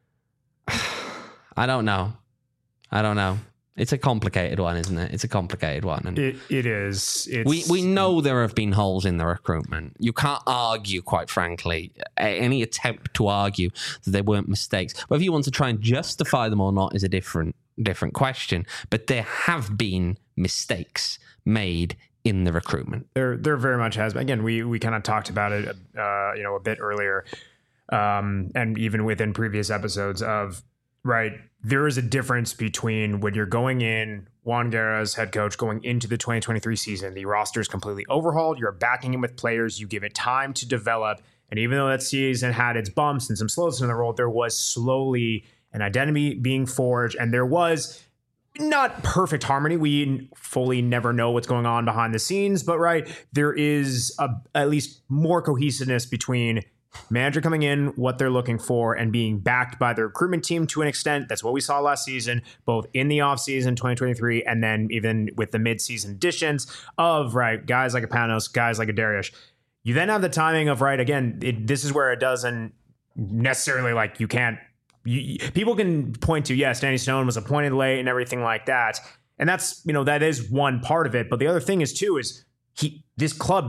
I don't know. I don't know. It's a complicated one, isn't it? It's a complicated one. And it, it is. It's, we we know there have been holes in the recruitment. You can't argue, quite frankly, any attempt to argue that there weren't mistakes. Whether you want to try and justify them or not is a different different question. But there have been mistakes made in the recruitment. There there very much has been. Again, we we kind of talked about it, uh, you know, a bit earlier, um, and even within previous episodes of. Right. There is a difference between when you're going in, Juan Guerra's head coach, going into the twenty twenty-three season, the roster is completely overhauled. You're backing him with players. You give it time to develop. And even though that season had its bumps and some slows in the road, there was slowly an identity being forged. And there was not perfect harmony. We fully never know what's going on behind the scenes. But right, there is a, at least more cohesiveness between manager coming in, what they're looking for, and being backed by the recruitment team to an extent. That's what we saw last season, both in the offseason twenty twenty-three and then even with the midseason additions of, right, guys like a Panos, guys like a Darius. You then have the timing of, right, again, it, this is where it doesn't necessarily, like, you can't, you, people can point to, yes, Danny Stone was appointed late and everything like that. And that's, you know, that is one part of it. But the other thing is, too, is he, this club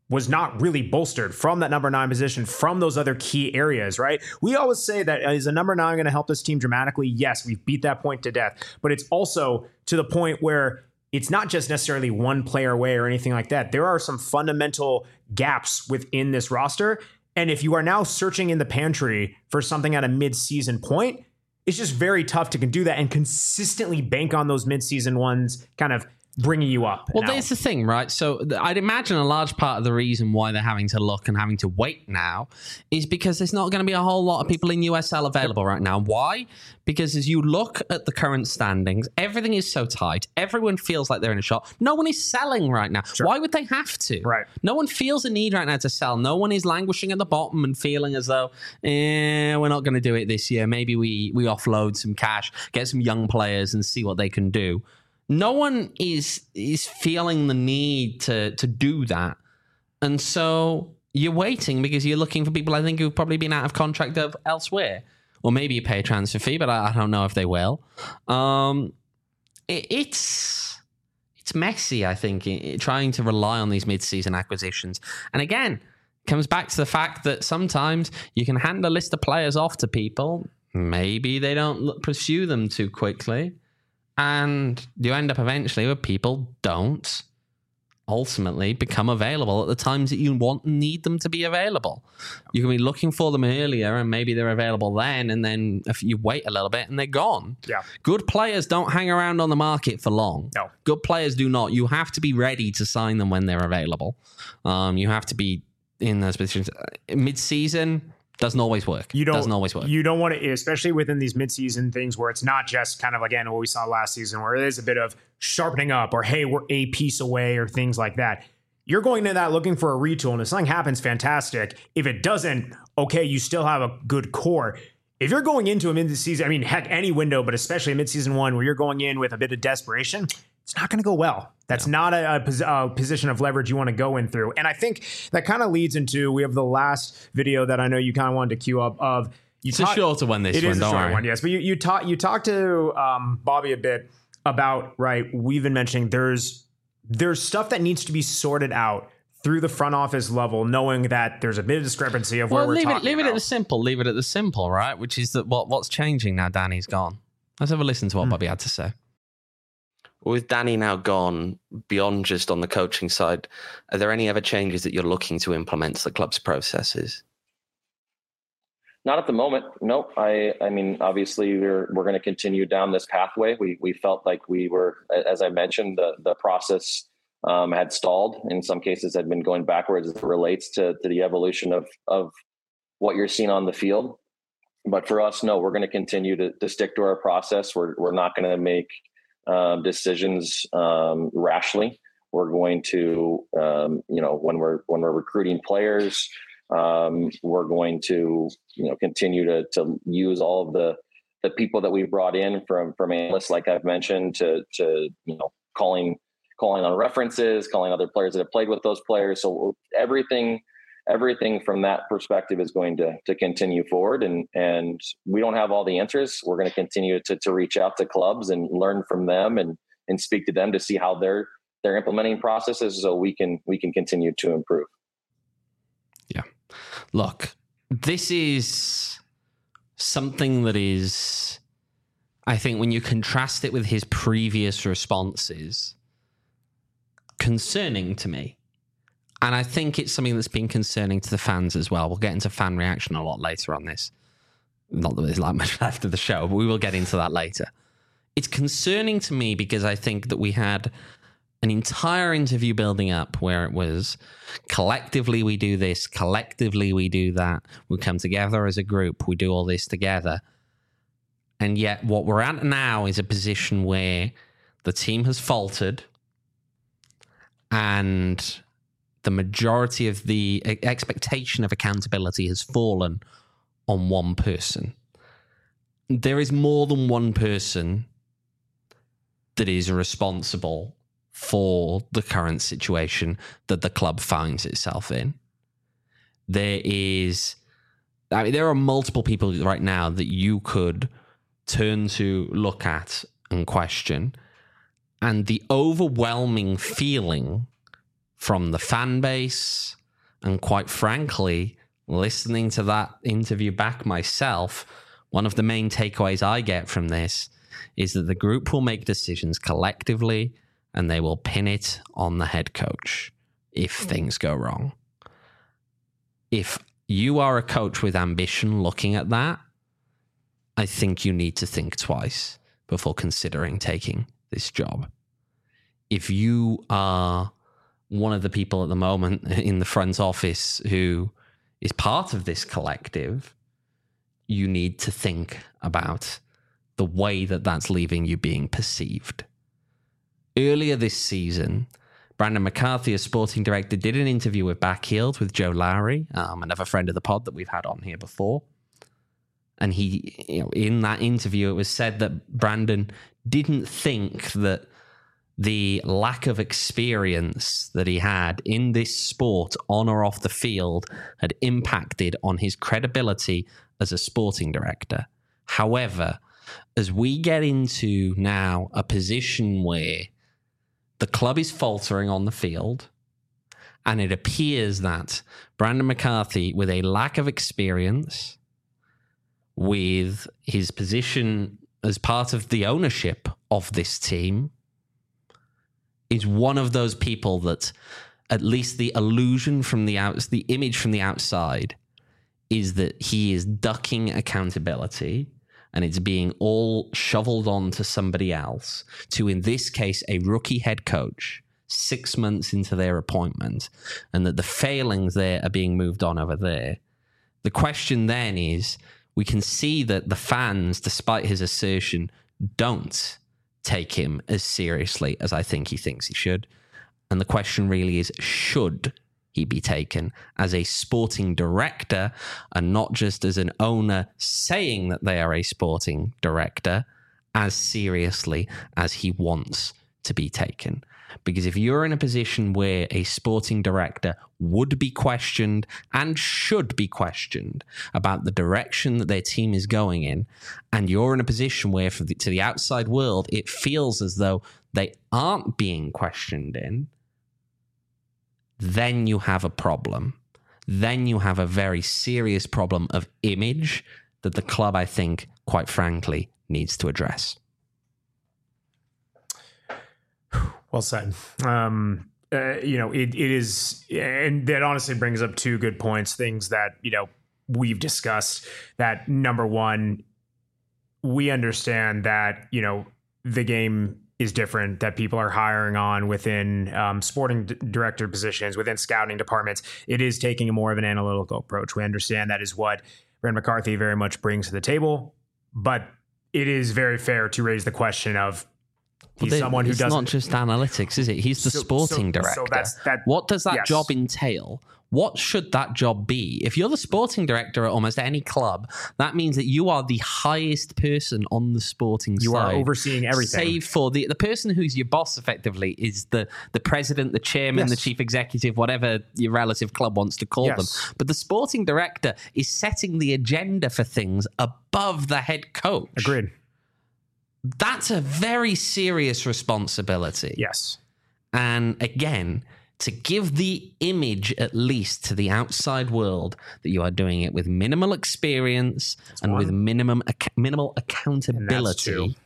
was not really bolstered from that number nine position, from those other key areas, right? We always say that is a number nine going to help this team dramatically? Yes, we've beat that point to death, but it's also to the point where it's not just necessarily one player away or anything like that. There are some fundamental gaps within this roster. And if you are now searching in the pantry for something at a mid-season point, it's just very tough to do that and consistently bank on those mid-season ones kind of bringing you up. Well, there's the thing, right? So th- I'd imagine a large part of the reason why they're having to look and having to wait now is because there's not going to be a whole lot of people in U S L available right now. Why? Because as you look at the current standings, everything is so tight. Everyone feels like they're in a shot. No one is selling right now. Sure. Why would they have to? Right. No one feels a need right now to sell. No one is languishing at the bottom and feeling as though, eh, we're not going to do it this year. Maybe we we offload some cash, get some young players and see what they can do. No one is is feeling the need to to do that. And so you're waiting because you're looking for people, I think, who've probably been out of contract of elsewhere. Or maybe you pay a transfer fee, but I, I don't know if they will. Um, it, it's it's messy, I think, it, trying to rely on these mid-season acquisitions. And again, comes back to the fact that sometimes you can hand a list of players off to people. Maybe they don't look, pursue them too quickly. And you end up eventually where people don't ultimately become available at the times that you want and need them to be available. You can be looking for them earlier and maybe they're available then, and then if you wait a little bit and they're gone. Yeah. Good players don't hang around on the market for long. No. Good players do not. You have to be ready to sign them when they're available. Um, you have to be in those positions. Mid-season doesn't always work. You don't, doesn't always work. You don't want to, especially within these midseason things where it's not just kind of, again, what we saw last season, where it is a bit of sharpening up or, hey, we're a piece away or things like that. You're going to that looking for a retool, and if something happens, fantastic. If it doesn't, okay, you still have a good core. If you're going into a mid-season, I mean, heck, any window, but especially a mid-season one where you're going in with a bit of desperation, it's not going to go well. That's no. not a, a, pos- a position of leverage you want to go in through. And I think that kind of leads into, we have the last video that I know you kind of wanted to queue up of. You it's talk, a shorter one, this it one, is a don't shorter worry. one, yes. But you, you, talk, you talked to um, Bobby a bit about, right, we've been mentioning there's there's stuff that needs to be sorted out through the front office level, knowing that there's a bit of discrepancy of where well, we're leave talking it, leave about. it at the simple. Leave it at the simple, right? Which is that what what's changing now Danny's gone. Let's have a listen to what mm. Bobby had to say. With Danny now gone, beyond just on the coaching side, are there any other changes that you're looking to implement to the club's processes? Not at the moment. No, I, I mean, obviously we're, we're going to continue down this pathway. We, we felt like we were, as I mentioned, the, the process um, had stalled. In some cases had been going backwards as it relates to, to the evolution of, of what you're seeing on the field. But for us, no, we're going to continue to, to stick to our process. We're, we're not going to make um, decisions um, rashly. We're going to, um, you know, when we're, when we're recruiting players, Um, we're going to, you know, continue to to use all of the the people that we've brought in from from analysts, like I've mentioned, to to you know calling calling on references, calling other players that have played with those players. So everything everything from that perspective is going to to continue forward. And and we don't have all the answers. We're going to continue to to reach out to clubs and learn from them and and speak to them to see how they're they're implementing processes, so we can we can continue to improve. Yeah. Look, this is something that is, I think, when you contrast it with his previous responses, concerning to me. And I think it's something that's been concerning to the fans as well. We'll get into fan reaction a lot later on this. Not that there's like much left of the show, but we will get into that later. It's concerning to me because I think that we had an entire interview building up where it was collectively we do this, collectively we do that, we come together as a group, we do all this together. And yet what we're at now is a position where the team has faltered and the majority of the expectation of accountability has fallen on one person. There is more than one person that is responsible for the current situation that the club finds itself in. There is, I mean, there are multiple people right now that you could turn to, look at, and question. And the overwhelming feeling from the fan base, and quite frankly, listening to that interview back myself, one of the main takeaways I get from this is that the group will make decisions collectively and they will pin it on the head coach if things go wrong. If you are a coach with ambition looking at that, I think you need to think twice before considering taking this job. If you are one of the people at the moment in the front office who is part of this collective, you need to think about the way that that's leaving you being perceived. Earlier this season, Brandon McCarthy, as sporting director, did an interview with Backheeled with Joe Lowry, um, another friend of the pod that we've had on here before. And he, you know, in that interview, it was said that Brandon didn't think that the lack of experience that he had in this sport, on or off the field, had impacted on his credibility as a sporting director. However, as we get into now a position where the club is faltering on the field, and it appears that Brandon McCarthy, with a lack of experience, with his position as part of the ownership of this team, is one of those people that, at least the illusion from the out, the image from the outside, is that he is ducking accountability and it's being all shoveled on to somebody else, to, in this case, a rookie head coach six months into their appointment, and that the failings there are being moved on over there. The question then is, we can see that the fans, despite his assertion, don't take him as seriously as I think he thinks he should. And the question really is, should he be taken as a sporting director and not just as an owner saying that they are a sporting director as seriously as he wants to be taken? Because if you're in a position where a sporting director would be questioned and should be questioned about the direction that their team is going in, and you're in a position where for the, to the outside world, it feels as though they aren't being questioned in, then you have a problem. Then you have a very serious problem of image that the club, I think, quite frankly, needs to address. Well said. Um, uh, you know, it, it is, and that honestly brings up two good points, things that, you know, we've discussed. That number one, we understand that, you know, the game is different, that people are hiring on within um, sporting d- director positions, within scouting departments. It is taking a more of an analytical approach. We understand that is what Brandon McCarthy very much brings to the table, but it is very fair to raise the question of, he's well, someone who it's doesn't. Not just analytics, is it? He's the So- sporting so- director. so that's- that- what does that yes. job entail? What should that job be? If you're the sporting director at almost any club, that means that you are the highest person on the sporting You side. are overseeing everything. Save for the, the person who's your boss, effectively, is the, the president, the chairman, Yes. the chief executive, whatever your relative club wants to call Yes. them. But the sporting director is setting the agenda for things above the head coach. Agreed. That's a very serious responsibility. Yes. And again, to give the image, at least to the outside world, that you are doing it with minimal experience and one. with minimum ac- minimal two. accountability,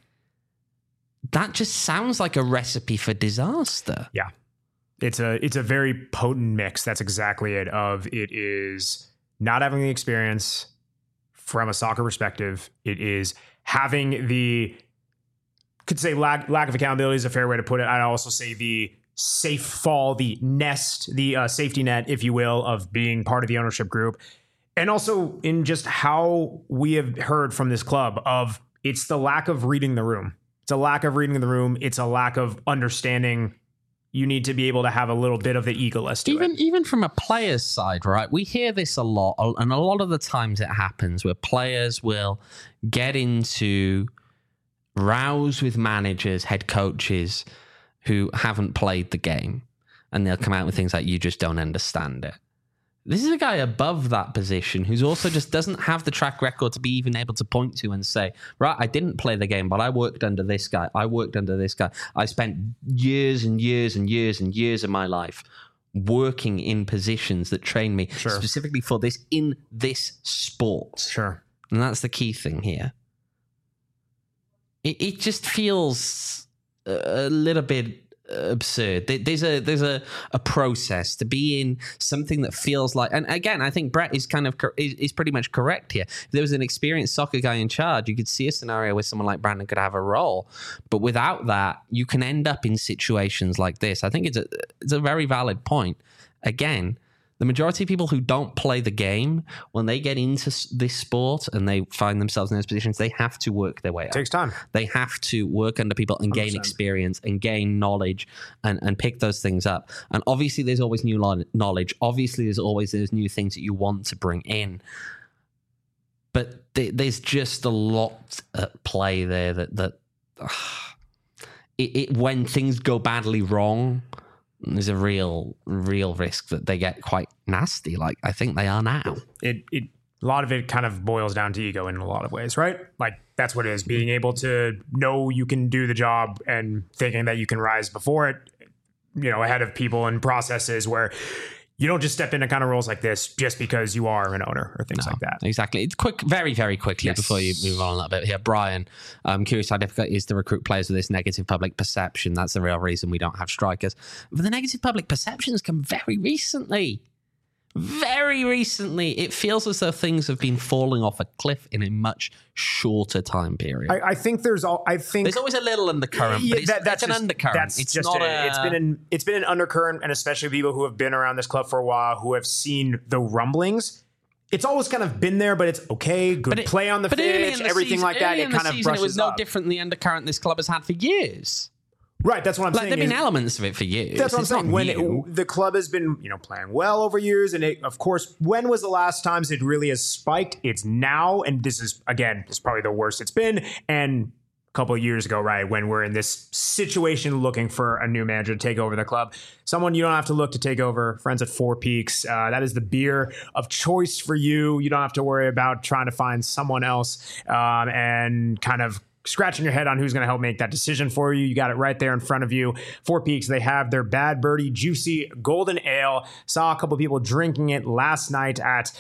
that just sounds like a recipe for disaster. Yeah. It's a it's a very potent mix. That's exactly it. Of it is not having the experience from a soccer perspective. It is having the, could say lack lack of accountability is a fair way to put it. I'd also say the safe fall, the nest, the uh, safety net, if you will, of being part of the ownership group. And also in just how we have heard from this club of, it's the lack of reading the room. It's a lack of reading the room. It's a lack of understanding. You need to be able to have a little bit of the egoless to Even it. even from a player's side, right? We hear this a lot, and a lot of the times it happens where players will get into rows with managers, head coaches who haven't played the game, and they'll come out with things like, you just don't understand it. This is a guy above that position who's also just doesn't have the track record to be even able to point to and say, right, I didn't play the game, but I worked under this guy. I worked under this guy. I spent years and years and years and years of my life working in positions that train me Sure. specifically for this in this sport. Sure. And that's the key thing here. It, it just feels a little bit absurd. There's a there's a, a process to be in something that feels like, and again, I think Brett is kind of is, is pretty much correct here. If there was an experienced soccer guy in charge, you could see a scenario where someone like Brandon could have a role, but without that, you can end up in situations like this. I think it's a it's a very valid point. Again, the majority of people who don't play the game, when they get into this sport and they find themselves in those positions, they have to work their way up. It takes time. They have to work under people and one hundred gain percent. experience and gain knowledge and, and pick those things up. And obviously, there's always new lo- knowledge. Obviously, there's always those new things that you want to bring in. But th- there's just a lot at play there that that uh, it, it when things go badly wrong, there's a real, real risk that they get quite nasty. Like I think they are now. It it a lot of it kind of boils down to ego in a lot of ways, right? Like that's what it is. Being able to know you can do the job and thinking that you can rise before it, you know, ahead of people and processes where you don't just step into kind of roles like this just because you are an owner or things No, like that. Exactly. It's quick, very, very quickly Yes. before you move on a little bit here. Brian, I'm curious how difficult it is to recruit players with this negative public perception. That's the real reason we don't have strikers. But the negative public perceptions come very recently. Very recently. It feels as though things have been falling off a cliff in a much shorter time period. I, I think there's all. I think There's always a little undercurrent, Yeah, but it's, that- that's it's an just- undercurrent. That's it's just not it. a, It's been an it's been an undercurrent, and especially people who have been around this club for a while, who have seen the rumblings. It's always kind of been there, but it's okay. Good but it- play on the but early in pitch, the everything season- like that. early It in the kind of season, brushes it was no up. different than the undercurrent this club has had for years. Right, that's what I'm Like saying. there've been is- elements of it for years. That's what I'm It's not saying. When new. it, the club has been, you know, playing well over years, and it, of course, when was the last times it really has spiked? It's now, and this is again, it's probably the worst it's been. And a couple of years ago, right, when we're in this situation looking for a new manager to take over the club, someone you don't have to look to take over. Friends at Four Peaks, uh, that is the beer of choice for you. You don't have to worry about trying to find someone else um, and kind of scratching your head on who's going to help make that decision for you. You got it right there in front of you. Four Peaks, they have their Bad Birdie Juicy Golden Ale. Saw a couple people drinking it last night at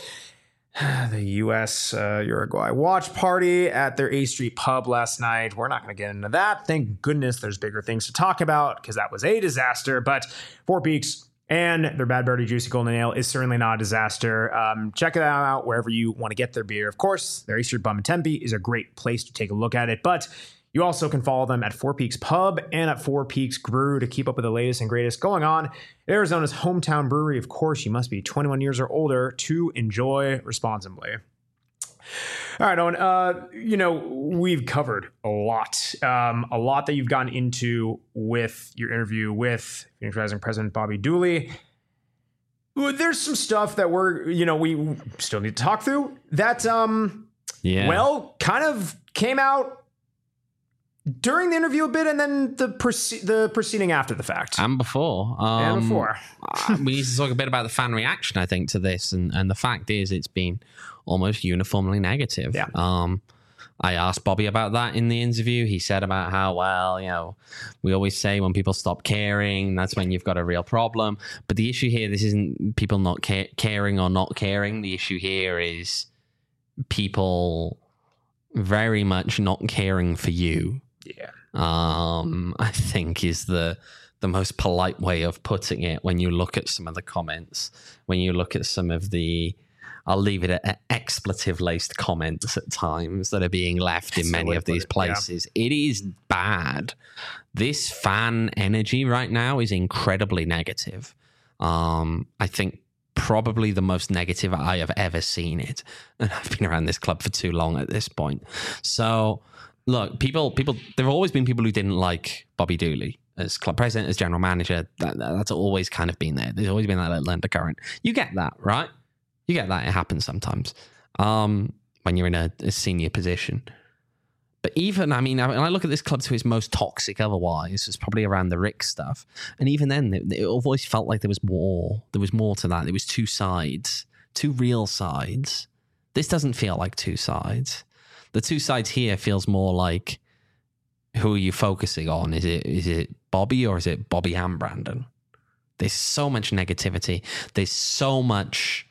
the U S uh, Uruguay watch party at their A Street pub last night. We're not going to get into that. Thank goodness there's bigger things to talk about because that was a disaster. But Four Peaks and their Bad Birdie Juicy Golden Ale is certainly not a disaster. Um, check it out wherever you want to get their beer. Of course, their A Street Bum in Tempe is a great place to take a look at it. But you also can follow them at Four Peaks Pub and at Four Peaks Brew to keep up with the latest and greatest going on at Arizona's hometown brewery. Of course, you must be twenty-one years or older to enjoy responsibly. All right, Owen, uh, you know, we've covered a lot, um, a lot that you've gotten into with your interview with Phoenix Rising President Bobby Dooley. There's some stuff that we're, you know, we still need to talk through that, um, Yeah. well, kind of came out during the interview a bit and then the proce- the proceeding after the fact. and before. Um, and before. uh, we need to talk a bit about the fan reaction, I think, to this. And, and the fact is, it's been almost uniformly negative. Yeah. Um, I asked Bobby about that in the interview. He said about how, well, you know, we always say when people stop caring, that's when you've got a real problem. But the issue here, this isn't people not ca- caring or not caring. The issue here is people very much not caring for you. Yeah. Um, I think is the the most polite way of putting it when you look at some of the comments, when you look at some of the, I'll leave it at expletive-laced comments at times that are being left in That's many the way of to put these it, yeah. places. It is bad. This fan energy right now is incredibly negative. Um, I think probably the most negative I have ever seen it. And I've been around this club for too long at this point. So, look, people, people, there have always been people who didn't like Bobby Dooley as club president, as general manager. That, that, that's always kind of been there. There's always been that little undercurrent. You get that, right? You get that. It happens sometimes um, when you're in a, a senior position. But even, I mean, when I look at this club to its most toxic otherwise, it's probably around the Rick stuff. And even then, it, it always felt like there was more. There was more to that. There was two sides, two real sides. This doesn't feel like two sides. The two sides here feels more like, who are you focusing on? Is it is it Bobby or is it Bobby and Brandon? There's so much negativity. There's so much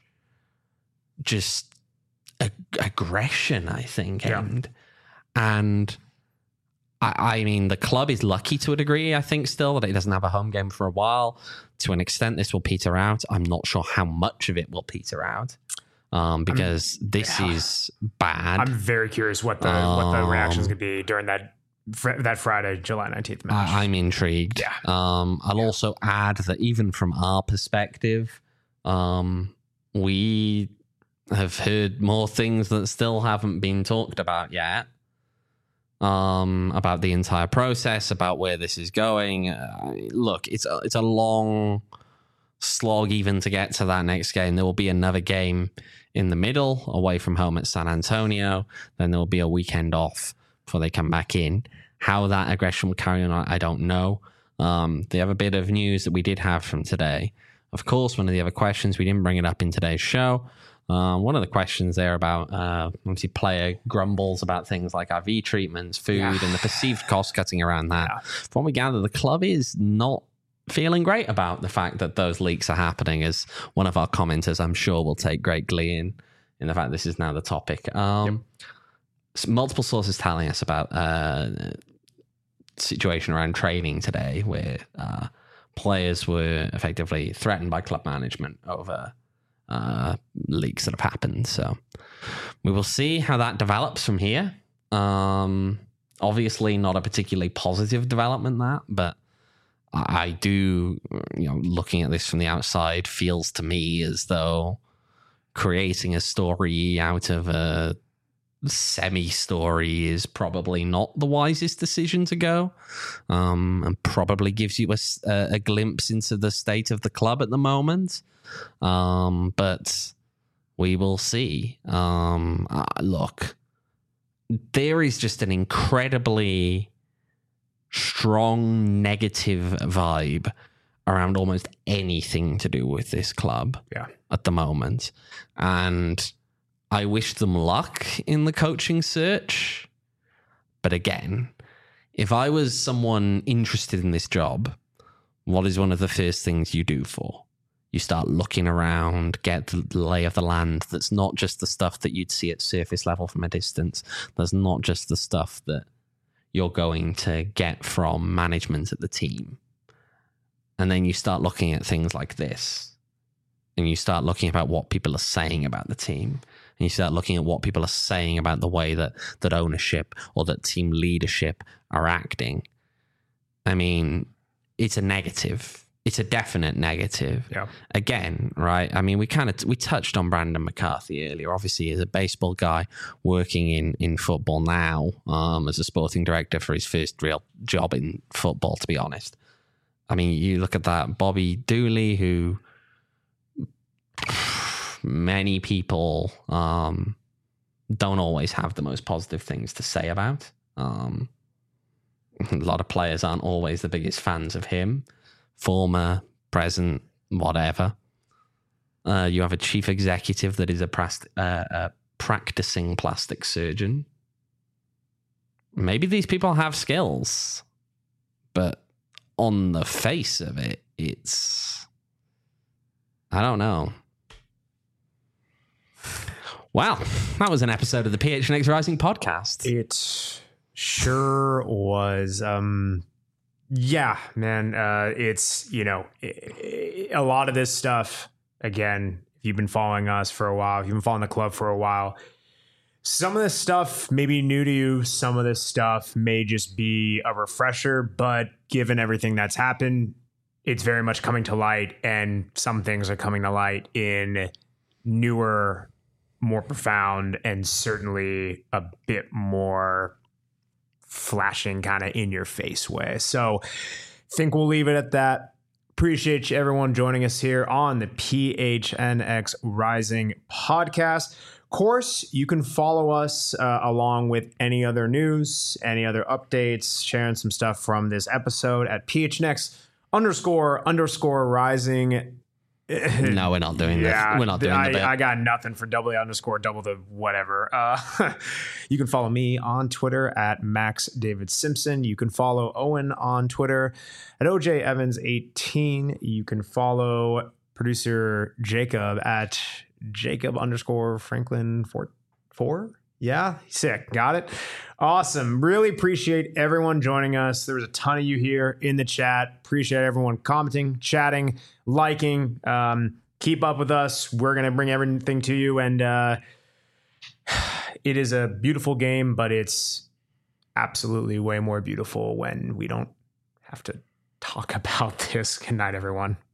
just ag- aggression, I think. Yeah. And, and I, I mean, the club is lucky to a degree, I think, still, that it doesn't have a home game for a while. To an extent, this will peter out. I'm not sure how much of it will peter out. Um, because I'm, this yeah. is bad. I'm very curious what the um, what the reaction is going to be during that fr- that Friday, July nineteenth match. I, I'm intrigued. Yeah. Um, I'll yeah. also add that even from our perspective, um, we have heard more things that still haven't been talked about yet. Um, about the entire process, about where this is going. Uh, look, it's a, it's a long slog even to get to that next game. There will be another game in the middle, away from home at San Antonio. Then there will be a weekend off before they come back in. How that aggression will carry on, I don't know. Um, the other bit of news that we did have from today, of course, one of the other questions, we didn't bring it up in today's show. Um, one of the questions there about, uh, obviously, player grumbles about things like I V treatments, food, yeah. and the perceived cost cutting around that. Yeah. From what we gather, the club is not feeling great about the fact that those leaks are happening, as one of our commenters, I'm sure, will take great glee in, in the fact this is now the topic. Um, yep. Multiple sources telling us about uh, situation around training today where uh, players were effectively threatened by club management over uh, leaks that have happened. So we will see how that develops from here. Um, obviously not a particularly positive development, that, but I do, you know, looking at this from the outside, feels to me as though creating a story out of a semi-story is probably not the wisest decision to go, um, and probably gives you a, a glimpse into the state of the club at the moment. Um, but we will see. Um, uh, look, there is just an incredibly strong negative vibe around almost anything to do with this club yeah. at the moment. And I wish them luck in the coaching search. But again, if I was someone interested in this job, what is one of the first things you do for? You start looking around, get the lay of the land. That's not just the stuff that you'd see at surface level from a distance. That's not just the stuff that you're going to get from management at the team. And then you start looking at things like this, and you start looking about what people are saying about the team, and you start looking at what people are saying about the way that that ownership or that team leadership are acting. I mean, it's a negative. It's a definite negative. Yeah. Again, right? I mean, we kind of we touched on Brandon McCarthy earlier. Obviously, he's a baseball guy working in, in football now, um, as a sporting director for his first real job in football, to be honest. I mean, you look at that Bobby Dooley, who many people um, don't always have the most positive things to say about. Um, a lot of players aren't always the biggest fans of him. Former, present, whatever. Uh, you have a chief executive that is a, prast- uh, a practicing plastic surgeon. Maybe these people have skills, but on the face of it, it's... I don't know. Wow, that was an episode of the P H N X Rising podcast. It sure was. Um... Yeah, man. Uh, it's, you know, a lot of this stuff, again, if you've been following us for a while, if you've been following the club for a while, some of this stuff may be new to you. Some of this stuff may just be a refresher, but given everything that's happened, it's very much coming to light, and some things are coming to light in newer, more profound, and certainly a bit more flashing kind of in your face way. So I think we'll leave it at that. Appreciate you everyone joining us here on the P H N X Rising podcast. Of course, you can follow us uh, along with any other news, any other updates, sharing some stuff from this episode at P H N X underscore underscore rising No, we're not doing yeah, this. We're not doing I, the bit. I got nothing for double A underscore double the whatever. Uh, you can follow me on Twitter at Max David Simpson. You can follow Owen on Twitter at O J Evans eighteen. You can follow producer Jacob at Jacob underscore Franklin four four. Yeah, sick. Got it. Awesome. Really appreciate everyone joining us. There was a ton of you here in the chat. Appreciate everyone commenting, chatting, liking. Um, keep up with us. We're going to bring everything to you. And uh, it is a beautiful game, but it's absolutely way more beautiful when we don't have to talk about this. Good night, everyone.